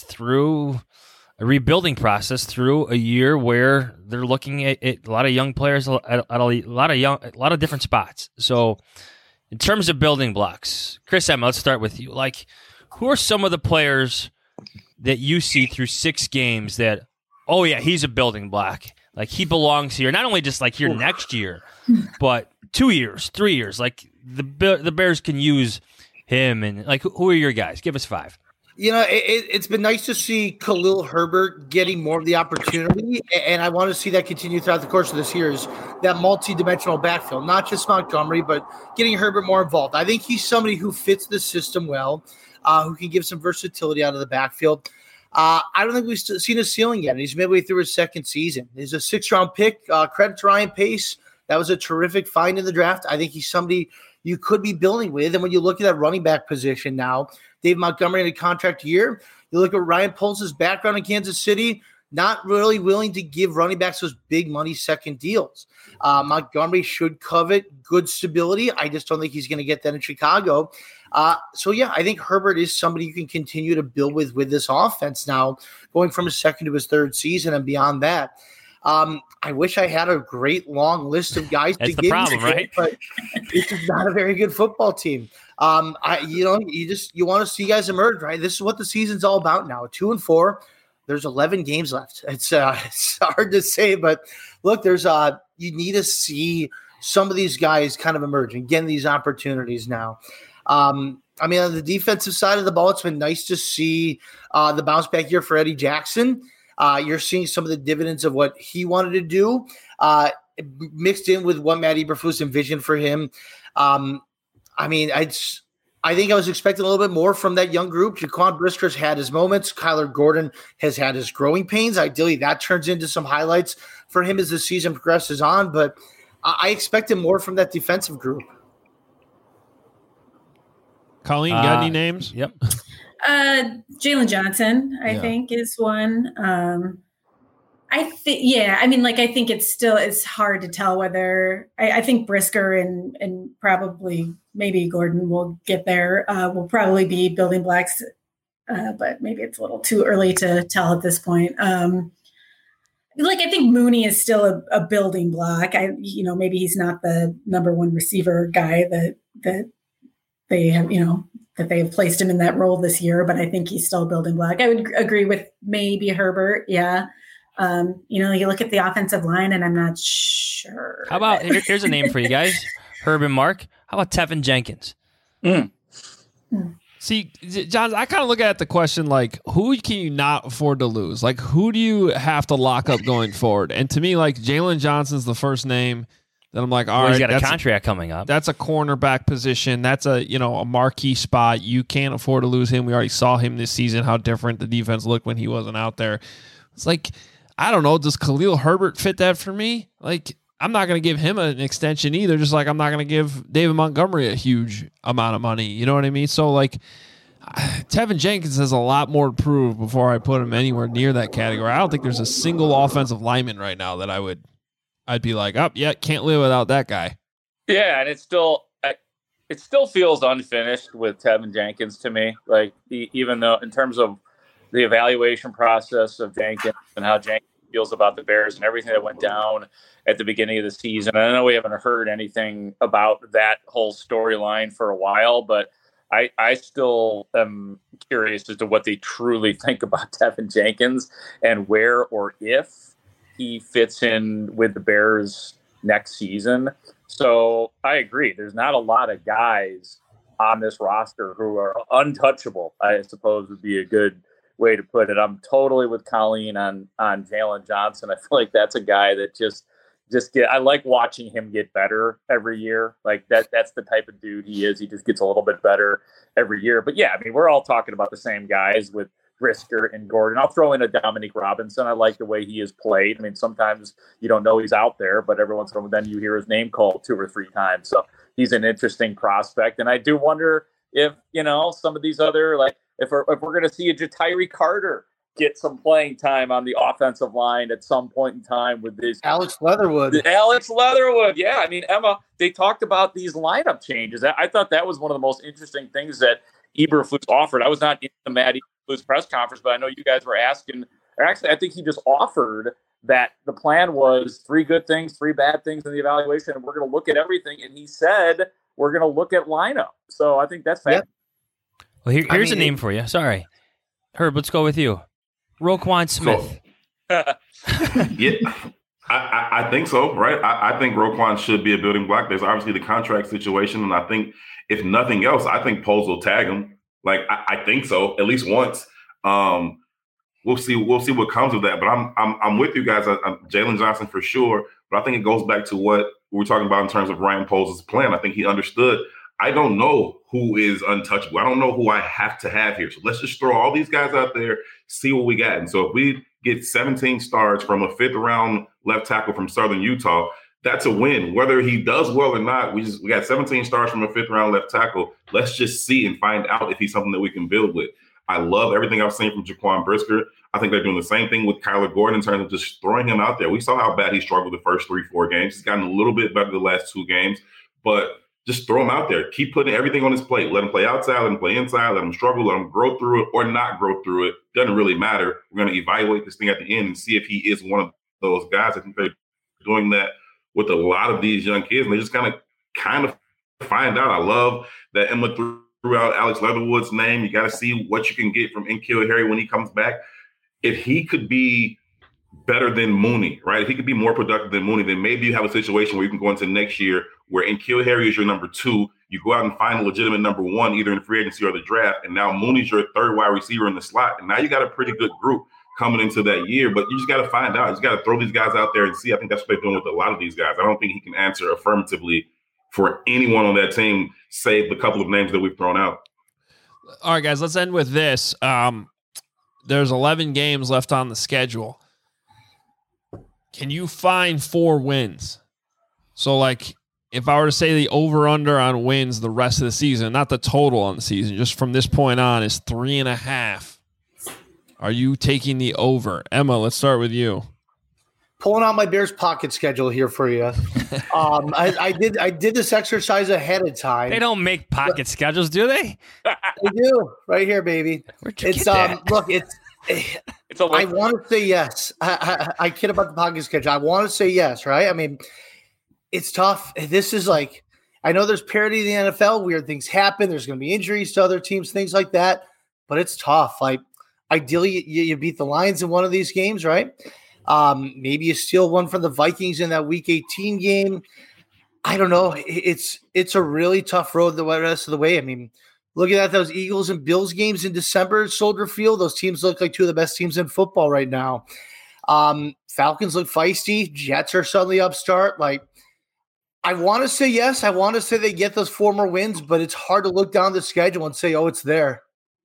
a rebuilding process, through a year where they're looking at a lot of young players at a lot of different spots. So, in terms of building blocks, Chris Emma, let's start with you. Like, who are some of the players that you see through 6 games that, oh yeah, he's a building block. Like he belongs here, not only just like here next year, but 2 years, 3 years. Like the Bears can use him, and like who are your guys? Give us 5. You know, it's been nice to see Khalil Herbert getting more of the opportunity, and I want to see that continue throughout the course of this year, is that multi-dimensional backfield, not just Montgomery, but getting Herbert more involved. I think he's somebody who fits the system well, who can give some versatility out of the backfield. I don't think we've seen his ceiling yet. He's midway through his second season. He's a 6th-round pick. Credit to Ryan Pace. That was a terrific find in the draft. I think he's somebody you could be building with. And when you look at that running back position now, Dave Montgomery in a contract year, you look at Ryan Poles' background in Kansas City, not really willing to give running backs those big money second deals. Montgomery should covet good stability. I just don't think he's going to get that in Chicago. So, yeah, I think Herbert is somebody you can continue to build with this offense now, going from his second to his third season and beyond that. I wish I had a great long list of guys to give. That's the problem, right? But this is not a very good football team. You want to see guys emerge, right? This is what the season's all about now. 2-4. There's 11 games left. It's hard to say, but look, you need to see some of these guys kind of emerge and getting these opportunities now. On the defensive side of the ball, it's been nice to see the bounce back year for Eddie Jackson. You're seeing some of the dividends of what he wanted to do, mixed in with what Matt Eberflus envisioned for him. I think I was expecting a little bit more from that young group. Jaquan Brisker's had his moments. Kyler Gordon has had his growing pains. Ideally, that turns into some highlights for him as the season progresses on. But I expected more from that defensive group. Colleen, got any names? Yep. Jalen Johnson, I think, is one. I think it's hard to tell whether I think Brisker and probably maybe Gordon will get there. Will probably be building blocks, but maybe it's a little too early to tell at this point. I think Mooney is still a building block. Maybe he's not the number one receiver guy that they have, that they have placed him in that role this year, but I think he's still a building block. I would agree with maybe Herbert. Yeah. You look at the offensive line and I'm not sure. How about, here's a name for you guys, Herb and Mark. How about Tevin Jenkins? See, John, I kind of look at the question like, who can you not afford to lose? Like, who do you have to lock up going forward? And to me, like, Jalen Johnson's the first name that I'm like, all right, he's got a contract coming up. That's a cornerback position. That's a marquee spot. You can't afford to lose him. We already saw him this season, how different the defense looked when he wasn't out there. It's like, I don't know, does Khalil Herbert fit that for me? Like, I'm not going to give him an extension either, just like I'm not going to give David Montgomery a huge amount of money. You know what I mean? So, like, Tevin Jenkins has a lot more to prove before I put him anywhere near that category. I don't think there's a single offensive lineman right now that I'd be like, oh, yeah, can't live without that guy. Yeah, and it still feels unfinished with Tevin Jenkins to me. Like, even though in terms of the evaluation process of Jenkins and how Jenkins feels about the Bears and everything that went down at the beginning of the season. I know we haven't heard anything about that whole storyline for a while, but I still am curious as to what they truly think about Tevin Jenkins and where or if he fits in with the Bears next season. So I agree. There's not a lot of guys on this roster who are untouchable, I suppose would be a good way to put it. I'm totally with Colleen on Jalen Johnson. I feel like that's a guy that I like watching him get better every year. Like that's the type of dude he is. He just gets a little bit better every year. But yeah, I mean, we're all talking about the same guys with Brisker and Gordon. I'll throw in a Dominique Robinson. I like the way he is played. I mean, sometimes you don't know he's out there, but every once in a while then you hear his name called 2 or 3 times. So he's an interesting prospect. And I do wonder if, some of these other, like if we're going to see a Ja'Tyre Carter get some playing time on the offensive line at some point in time with this Alex Leatherwood. Yeah. I mean, Emma, they talked about these lineup changes. I thought that was one of the most interesting things that Eberflus offered. I was not in the Matt Eberflus press conference, but I know you guys were asking, or actually I think he just offered that the plan was 3 good things, 3 bad things in the evaluation, and we're going to look at everything. And he said, we're going to look at lineup. So I think that's fantastic. Well, here's a name for you. Sorry. Herb, let's go with you. Roquan Smith. Yeah, I think so, right? I think Roquan should be a building block. There's obviously the contract situation, and I think if nothing else, I think Poles will tag him. Like I think so, at least once. We'll see what comes of that. But I'm with you guys. Jalen Johnson for sure. But I think it goes back to what we were talking about in terms of Ryan Poles' plan. I think he understood. I don't know who is untouchable. I don't know who I have to have here. So let's just throw all these guys out there, see what we got. And so if we get 17 stars from a 5th round left tackle from Southern Utah, that's a win. Whether he does well or not, we got 17 stars from a 5th round left tackle. Let's just see and find out if he's something that we can build with. I love everything I've seen from Jaquan Brisker. I think they're doing the same thing with Kyler Gordon in terms of just throwing him out there. We saw how bad he struggled the first 3-4 games. He's gotten a little bit better the last 2 games, but just throw him out there. Keep putting everything on his plate. Let him play outside, let him play inside, let him struggle, let him grow through it or not grow through it. Doesn't really matter. We're going to evaluate this thing at the end and see if he is one of those guys. I think they're doing that with a lot of these young kids, and they just kind of find out. I love that Emma threw out Alex Leatherwood's name. You got to see what you can get from N'Keal Harry when he comes back. If he could be better than Mooney, right? If he could be more productive than Mooney, then maybe you have a situation where you can go into next year where N'Keal Harry is your number 2. You go out and find a legitimate number 1, either in free agency or the draft, and now Mooney's your 3rd wide receiver in the slot. And now you got a pretty good group coming into that year, but you just got to find out. You just got to throw these guys out there and see. I think that's what they're doing with a lot of these guys. I don't think he can answer affirmatively for anyone on that team, save the couple of names that we've thrown out. All right, guys, let's end with this. There's 11 games left on the schedule. Can you find 4 wins? So, like, if I were to say the over-under on wins the rest of the season, not the total on the season, just from this point on is 3.5. Are you taking the over? Emma, let's start with you. Pulling out my Bears pocket schedule here for you. I did this exercise ahead of time. They don't make pocket schedules, do they? They do. Right here, baby. Where'd you get that? Look, I want to say yes. I kid about the pocket schedule. I want to say yes, right? I mean, it's tough. This is like, I know there's parity in the NFL. Weird things happen. There's going to be injuries to other teams, things like that. But it's tough. Like, ideally, you beat the Lions in one of these games, right? Maybe you steal one from the Vikings in that Week 18 game. I don't know. It's a really tough road the rest of the way. I mean, looking at those Eagles and Bills games in December at Soldier Field, those teams look like 2 of the best teams in football right now. Falcons look feisty. Jets are suddenly upstart. Like, I want to say yes. I want to say they get those 4 more wins, but it's hard to look down the schedule and say, oh, it's there.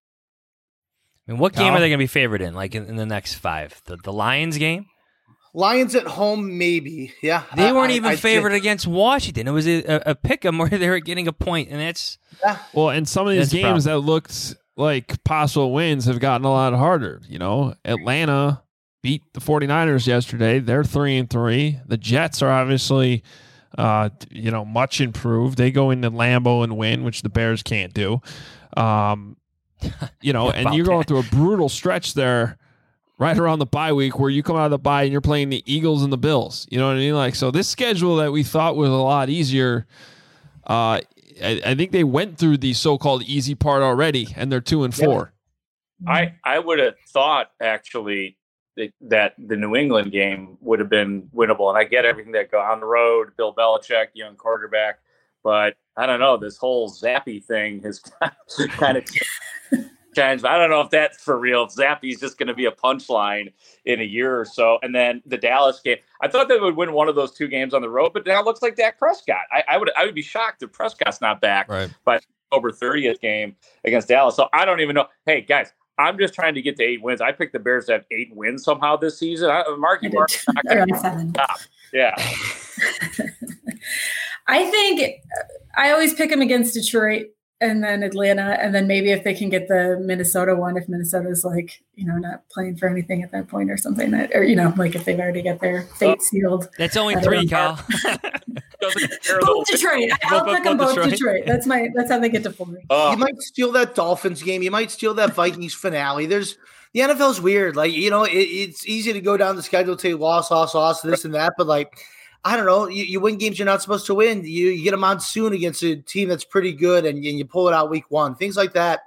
I mean, what game are they going to be favored in, like in the next 5? The Lions game? Lions at home, maybe. Yeah. They weren't even favored against Washington. It was a pick 'em where they were getting a point, and that's... Yeah. Well, and some of these games that looked like possible wins have gotten a lot harder. You know, Atlanta beat the 49ers yesterday. They're 3-3. The Jets are obviously, much improved. They go into Lambeau and win, which the Bears can't do. And you're going through a brutal stretch there right around the bye week where you come out of the bye and you're playing the Eagles and the Bills. You know what I mean? Like, so this schedule that we thought was a lot easier, I think they went through the so-called easy part already, and they're 2-4. I would have thought actually that the New England game would have been winnable, and I get everything that go on the road, Bill Belichick, young quarterback, but I don't know, this whole Zappy thing has kind of changed. I don't know if that's for real. Zappy's just going to be a punchline in a year or so. And then the Dallas game, I thought they would win one of those two games on the road, but now it looks like Dak Prescott. I would be shocked if Prescott's not back by October 30th game against Dallas. So I don't even know. Hey, guys, I'm just trying to get to 8 wins. I picked the Bears to have 8 wins somehow this season. Marky Mark's not going to stop. Yeah. I think I always pick them against Detroit and then Atlanta, and then maybe if they can get the Minnesota one, if Minnesota's like, not playing for anything at that point or something, like if they've already got their fate sealed. That's only 3, Kyle. Both Detroit. I'll pick them both Detroit. That's how they get to 4. You might steal that Dolphins game. You might steal that Vikings finale. The NFL's weird. Like, it's easy to go down the schedule, say loss, this and that, but like, I don't know. You win games you're not supposed to win. You get a monsoon against a team that's pretty good, and you pull it out week 1. Things like that.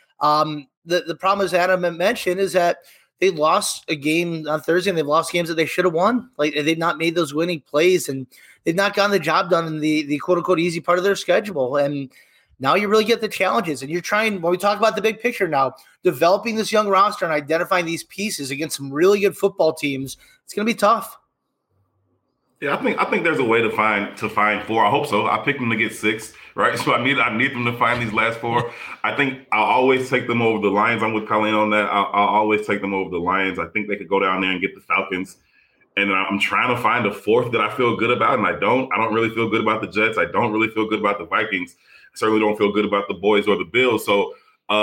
The problem, as Adam mentioned, is that they lost a game on Thursday, and they've lost games that they should have won. Like, they've not made those winning plays, and they've not gotten the job done in the quote-unquote easy part of their schedule. And now you really get the challenges, and you're trying, when we talk about the big picture now, developing this young roster and identifying these pieces against some really good football teams, it's going to be tough. Yeah, I think there's a way to find 4. I hope so. I picked them to get 6, right? So I need them to find these last 4. I think I'll always take them over the Lions. I'm with Colleen on that. I'll always take them over the Lions. I think they could go down there and get the Falcons. And I'm trying to find a 4th that I feel good about, and I don't really feel good about the Jets. I don't really feel good about the Vikings. I certainly don't feel good about the Boys or the Bills. So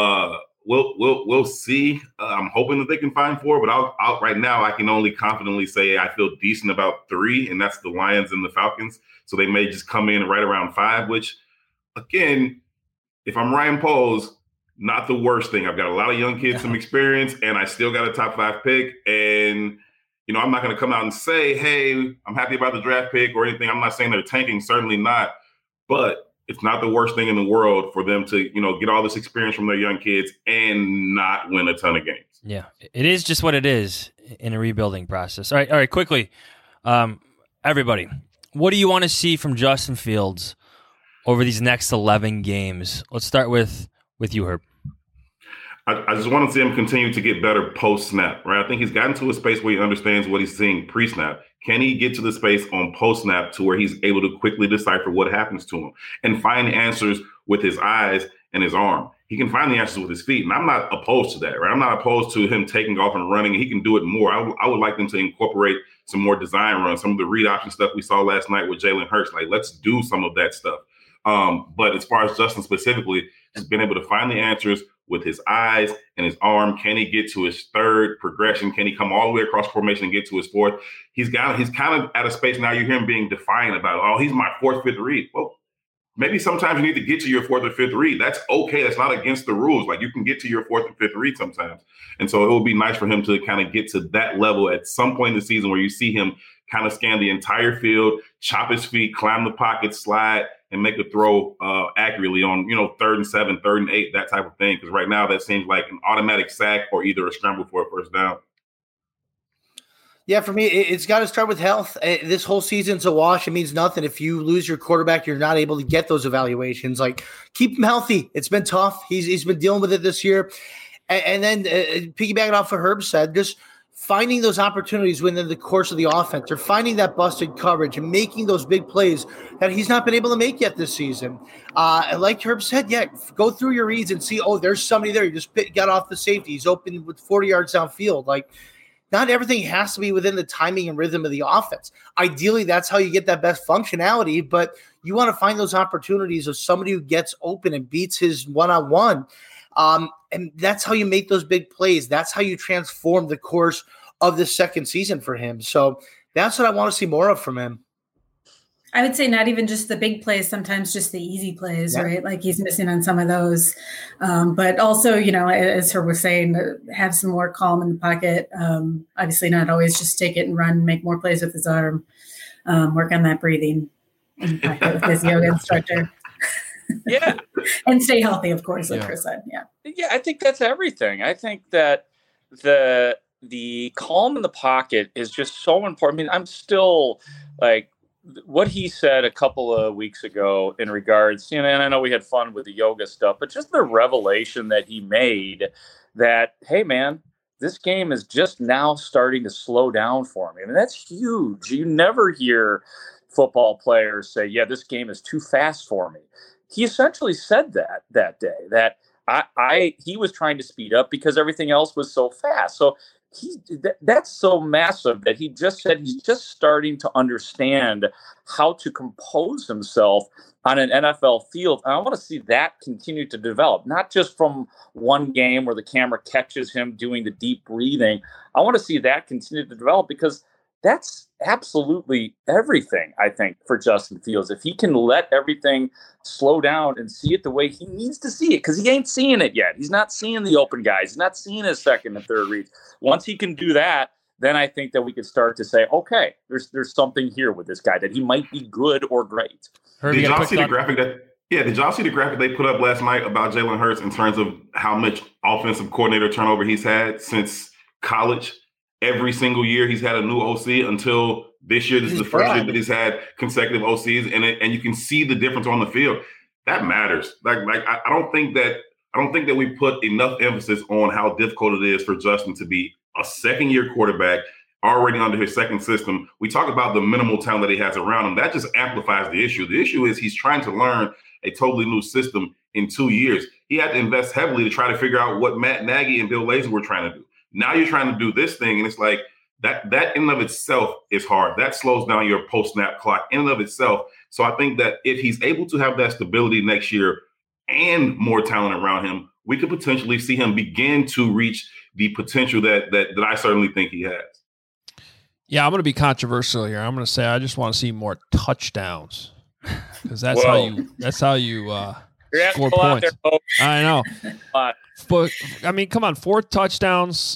we'll see. I'm hoping that they can find 4, but I'll right now I can only confidently say I feel decent about 3, and that's the Lions and the Falcons. So they may just come in right around 5, which, again, if I'm Ryan Poles, not the worst thing. I've got a lot of young kids, some experience, and I still got a top 5 pick. And, I'm not going to come out and say, hey, I'm happy about the draft pick or anything. I'm not saying they're tanking, certainly not. But it's not the worst thing in the world for them to, get all this experience from their young kids and not win a ton of games. Yeah, it is just what it is in a rebuilding process. All right, quickly. Everybody, what do you want to see from Justin Fields over these next 11 games? Let's start with you, Herb. I just want to see him continue to get better post-snap, right? I think he's gotten to a space where he understands what he's seeing pre-snap. Can he get to the space on post-snap to where he's able to quickly decipher what happens to him and find answers with his eyes and his arm? He can find the answers with his feet, and I'm not opposed to that, right? I'm not opposed to him taking off and running. He can do it more. I would like them to incorporate some more design runs, some of the read option stuff we saw last night with Jalen Hurts. Like, let's do some of that stuff. But as far as Justin specifically, he's been able to find the answers with his eyes and his arm. Can he get to his 3rd progression? Can he come all the way across formation and get to his 4th? He's kind of at a space now. You hear him being defiant about, oh, he's my 4th, 5th read. Well, maybe sometimes you need to get to your 4th or 5th read. That's okay. That's not against the rules. Like, you can get to your 4th or 5th read sometimes. And so it will be nice for him to kind of get to that level at some point in the season where you see him kind of scan the entire field, chop his feet, climb the pocket, slide, and make a throw accurately on, 3rd and 7, 3rd and 8, that type of thing. Because right now that seems like an automatic sack or either a scramble for a first down. Yeah, for me, it's got to start with health. This whole season's a wash. It means nothing. If you lose your quarterback, you're not able to get those evaluations. Like, keep him healthy. It's been tough. He's been dealing with it this year. And then piggybacking off what Herb said, just finding those opportunities within the course of the offense or finding that busted coverage and making those big plays that he's not been able to make yet this season. And like Herb said, go through your reads and see, there's somebody there. You just got off the safety. He's open with 40 yards downfield. Like, not everything has to be within the timing and rhythm of the offense. Ideally, that's how you get that best functionality, but you want to find those opportunities of somebody who gets open and beats his one-on-one. And that's how you make those big plays. That's how you transform the course of the second season for him. So that's what I want to see more of from him. I would say not even just the big plays, sometimes just the easy plays, right? Like he's missing on some of those. But also, as Herb was saying, have some more calm in the pocket. Obviously not always just take it and run, make more plays with his arm, work on that breathing in the pocket with his yoga instructor. Yeah. And stay healthy, of course, like Chris said. Yeah. Yeah, I think that's everything. I think that the calm in the pocket is just so important. I mean, I'm still like, what he said a couple of weeks ago in regards, and I know we had fun with the yoga stuff, but just the revelation that he made that, hey, man, this game is just now starting to slow down for me. I mean, that's huge. You never hear football players say, yeah, this game is too fast for me. He essentially said that day, that he was trying to speed up because everything else was so fast. So that's so massive that he just said he's just starting to understand how to compose himself on an NFL field. And I want to see that continue to develop, not just from one game where the camera catches him doing the deep breathing. I want to see that continue to develop because that's absolutely everything, I think, for Justin Fields. If he can let everything slow down and see it the way he needs to see it, because he ain't seeing it yet. He's not seeing the open guys. He's not seeing his second and third reads. Once he can do that, then I think that we could start to say, okay, there's something here with this guy, that he might be good or great. Did y'all see the graphic did y'all see the graphic they put up last night about Jalen Hurts in terms of how much offensive coordinator turnover he's had since college? Every single year he's had a new OC until this year. This is the first year that he's had consecutive OCs, and you can see the difference on the field. That matters. I don't think that we put enough emphasis on how difficult it is for Justin to be a second-year quarterback already under his second system. We talk about the minimal talent that he has around him. That just amplifies the issue. The issue is he's trying to learn a totally new system in 2 years. He had to invest heavily to try to figure out what Matt Nagy and Bill Lazor were trying to do. Now you're trying to do this thing, and it's like that in and of itself is hard. That slows down your post-snap clock in and of itself. So I think that if he's able to have that stability next year and more talent around him, we could potentially see him begin to reach the potential that I certainly think he has. Yeah, I'm going to be controversial here. I'm going to say I just want to see more touchdowns because that's how you score points. I know. But, I mean, come on, 4 touchdowns,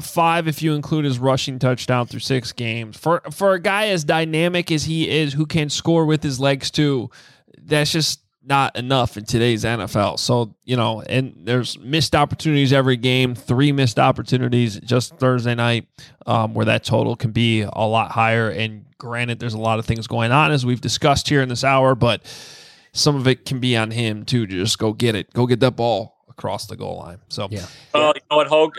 5 if you include his rushing touchdown through 6 games. For a guy as dynamic as he is, who can score with his legs too, that's just not enough in today's NFL. So, and there's missed opportunities every game, 3 missed opportunities just Thursday night, where that total can be a lot higher. And granted, there's a lot of things going on, as we've discussed here in this hour, but some of it can be on him too, to just go get that ball across the goal line. So, yeah. Well, you know what, Hogue?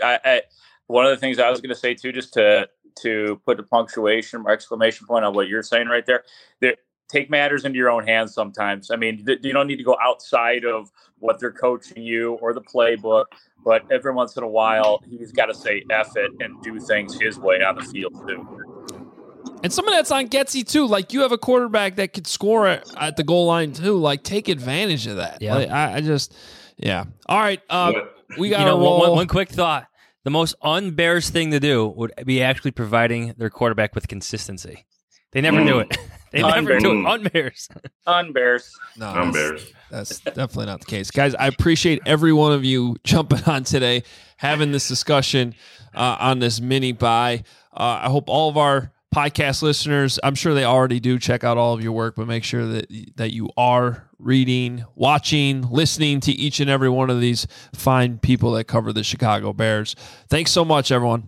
One of the things I was going to say too, just to put a punctuation or exclamation point on what you're saying right there, take matters into your own hands sometimes. I mean, you don't need to go outside of what they're coaching you or the playbook, but every once in a while, he's got to say F it and do things his way on the field too. And some of that's on Getsy too. Like, you have a quarterback that could score at the goal line too. Like, take advantage of that. Yeah. Like, yeah. All right. We got to roll. One quick thought. The most un-Bears thing to do would be actually providing their quarterback with consistency. They never do it. They never do it. Un-Bears. Un-Bears. No, Un-Bears. That's definitely not the case. Guys, I appreciate every one of you jumping on today, having this discussion on this mini buy. I hope all of our podcast listeners, I'm sure they already do check out all of your work, but make sure that you are reading, watching, listening to each and every one of these fine people that cover the Chicago Bears. Thanks so much, everyone.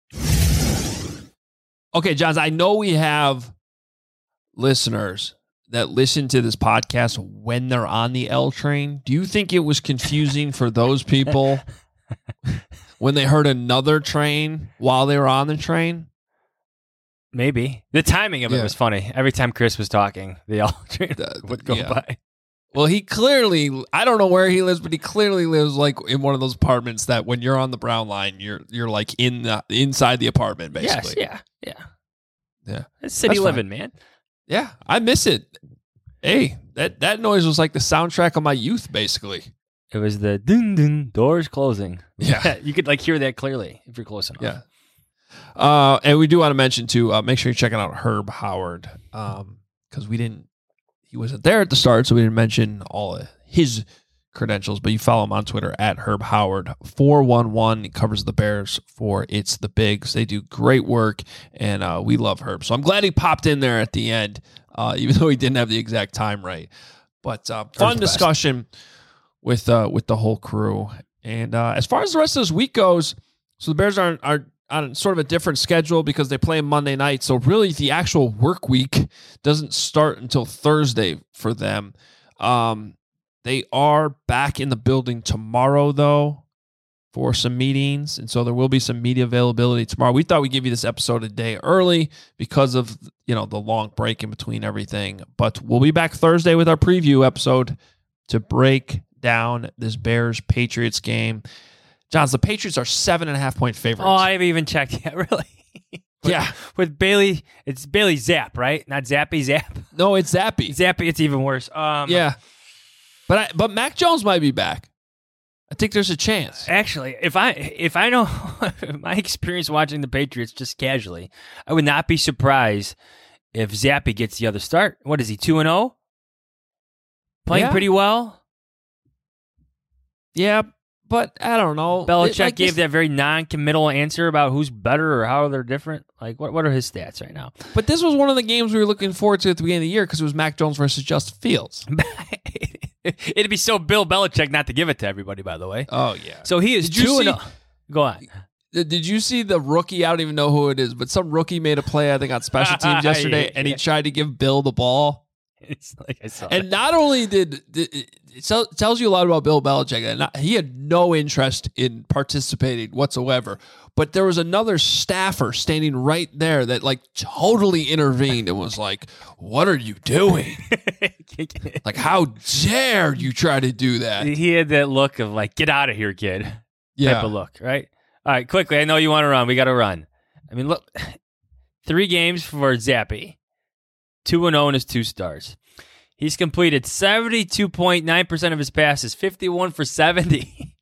Okay, Johns, I know we have listeners that listen to this podcast when they're on the L train. Do you think it was confusing for those people when they heard another train while they were on the train? Maybe. The timing of it was funny. Every time Chris was talking, the L train would go by. Well, he clearly, I don't know where he lives, but he clearly lives like in one of those apartments that when you're on the Brown line, you're like inside the apartment, basically. Yes, yeah. It's city living, man. Yeah, I miss it. Hey, that noise was like the soundtrack of my youth, basically. It was the dun dun doors closing. Yeah. You could hear that clearly if you're close enough. Yeah. And we do want to mention too, make sure you're checking out Herb Howard. Because he wasn't there at the start, so we didn't mention all of his credentials, but you follow him on Twitter at Herb Howard 411. He covers the Bears for It's the Bigs. They do great work, and we love Herb. So I'm glad he popped in there at the end, even though he didn't have the exact time right. But fun discussion with the whole crew. And as far as the rest of this week goes, so the Bears are on sort of a different schedule because they play Monday night. So really the actual work week doesn't start until Thursday for them. They are back in the building tomorrow, though, for some meetings. And so there will be some media availability tomorrow. We thought we'd give you this episode a day early because of, the long break in between everything. But we'll be back Thursday with our preview episode to break down this Bears-Patriots game. Johns, the Patriots are 7.5-point favorites. Oh, I haven't even checked yet, really. With Bailey, it's Bailey Zapp, right? Not Zappy Zapp. No, it's Zappy. Zappy, it's even worse. Yeah. But Mac Jones might be back. I think there's a chance. Actually, if I know my experience watching the Patriots just casually, I would not be surprised if Zappy gets the other start. What is he, 2-0? Playing pretty well? Yeah, but I don't know. Belichick gave that very non-committal answer about who's better or how they're different. What are his stats right now? But this was one of the games we were looking forward to at the beginning of the year because it was Mac Jones versus Justin Fields. It'd be so Bill Belichick not to give it to everybody, by the way. Oh, yeah. So he is 2-0. Go on. Did you see the rookie? I don't even know who it is, but some rookie made a play, I think, on special teams yesterday, and he tried to give Bill the ball. It's like I saw and not only did it tells you a lot about Bill Belichick, that he had no interest in participating whatsoever, but there was another staffer standing right there that totally intervened and was like, "What are you doing? How dare you try to do that?" He had that look of "Get out of here, kid." Type of look, right? All right, quickly. I know you want to run. We got to run. I mean, look, 3 games for Zappy. 2-0 in his 2 starts. He's completed 72.9% of his passes, 51 for 70,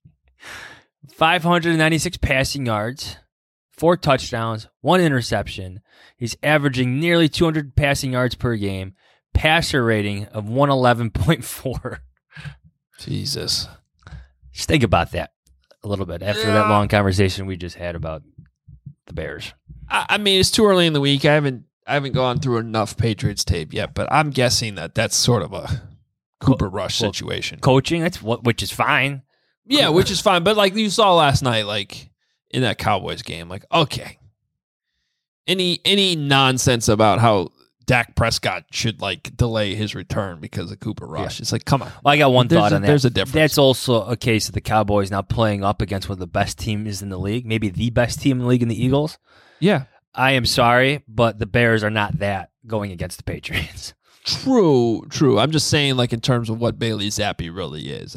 596 passing yards, 4 touchdowns, 1 interception. He's averaging nearly 200 passing yards per game, passer rating of 111.4. Jesus. Just think about that a little bit after that long conversation we just had about the Bears. I mean, it's too early in the week. I haven't gone through enough Patriots tape yet, but I'm guessing that's sort of a Cooper Rush situation. Coaching, which is fine. Yeah, which is fine. But you saw last night, in that Cowboys game, okay. Any nonsense about how Dak Prescott should delay his return because of Cooper Rush. Yeah. It's come on. Well, I got one thought on that. There's a difference. That's also a case of the Cowboys now playing up against one of the best teams in the league, maybe the best team in the league in the Eagles. Yeah. I am sorry, but the Bears are not that going against the Patriots. True. I'm just saying, in terms of what Bailey Zappe really is.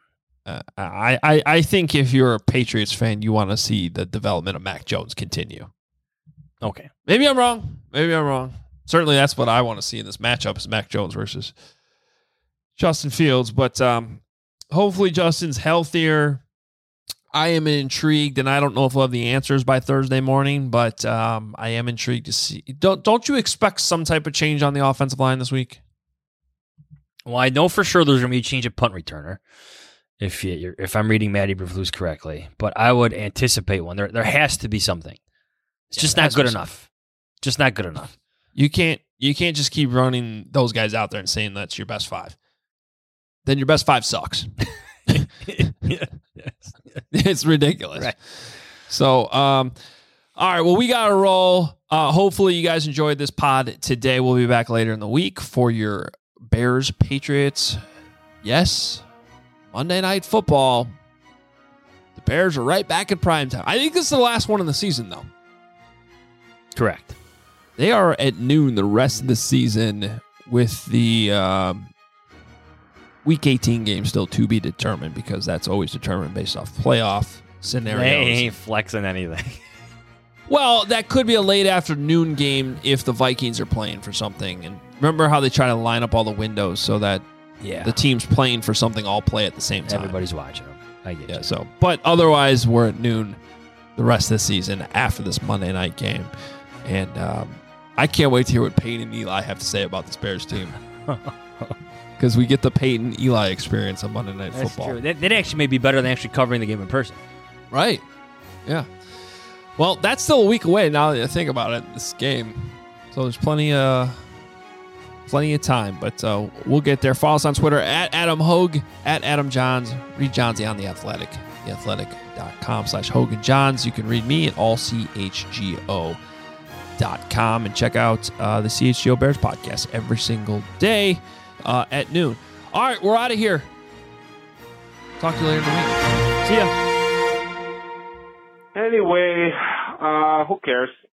I think if you're a Patriots fan, you want to see the development of Mac Jones continue. Okay. Maybe I'm wrong. Certainly, that's what I want to see in this matchup is Mac Jones versus Justin Fields. But hopefully, Justin's healthier. I am intrigued, and I don't know if we'll have the answers by Thursday morning, but I am intrigued to see. Don't you expect some type of change on the offensive line this week? Well, I know for sure there's going to be a change at punt returner, if I'm reading Matty Eberflus correctly. But I would anticipate one. There has to be something. It's just not good enough. Just not good enough. You can't just keep running those guys out there and saying that's your best 5. Then your best 5 sucks. It's ridiculous. Right. So, all right. Well, we got to roll. Hopefully, you guys enjoyed this pod today. We'll be back later in the week for your Bears Patriots. Yes, Monday Night Football. The Bears are right back in primetime. I think this is the last one of the season, though. Correct. They are at noon the rest of the season with the Week 18 game still to be determined because that's always determined based off playoff scenarios. They ain't flexing anything. Well, that could be a late afternoon game if the Vikings are playing for something. And remember how they try to line up all the windows so that Yeah. the teams playing for something all play at the same time. Everybody's watching them. I get you. So, but otherwise, we're at noon the rest of the season after this Monday night game. And I can't wait to hear what Peyton and Eli have to say about this Bears team. Because we get the Peyton Eli experience on Monday Night Football. True. That actually may be better than actually covering the game in person. Right. Yeah. Well, that's still a week away now that I think about it, this game. So there's plenty of time, but we'll get there. Follow us on Twitter at Adam Hogue, at Adam Johns. Read Johnsy on The Athletic, theathletic.com/Hogan Johns. You can read me at allchgo.com and check out the CHGO Bears podcast every single day at noon. All right, we're out of here. Talk to you later in the week. See ya. Anyway, who cares?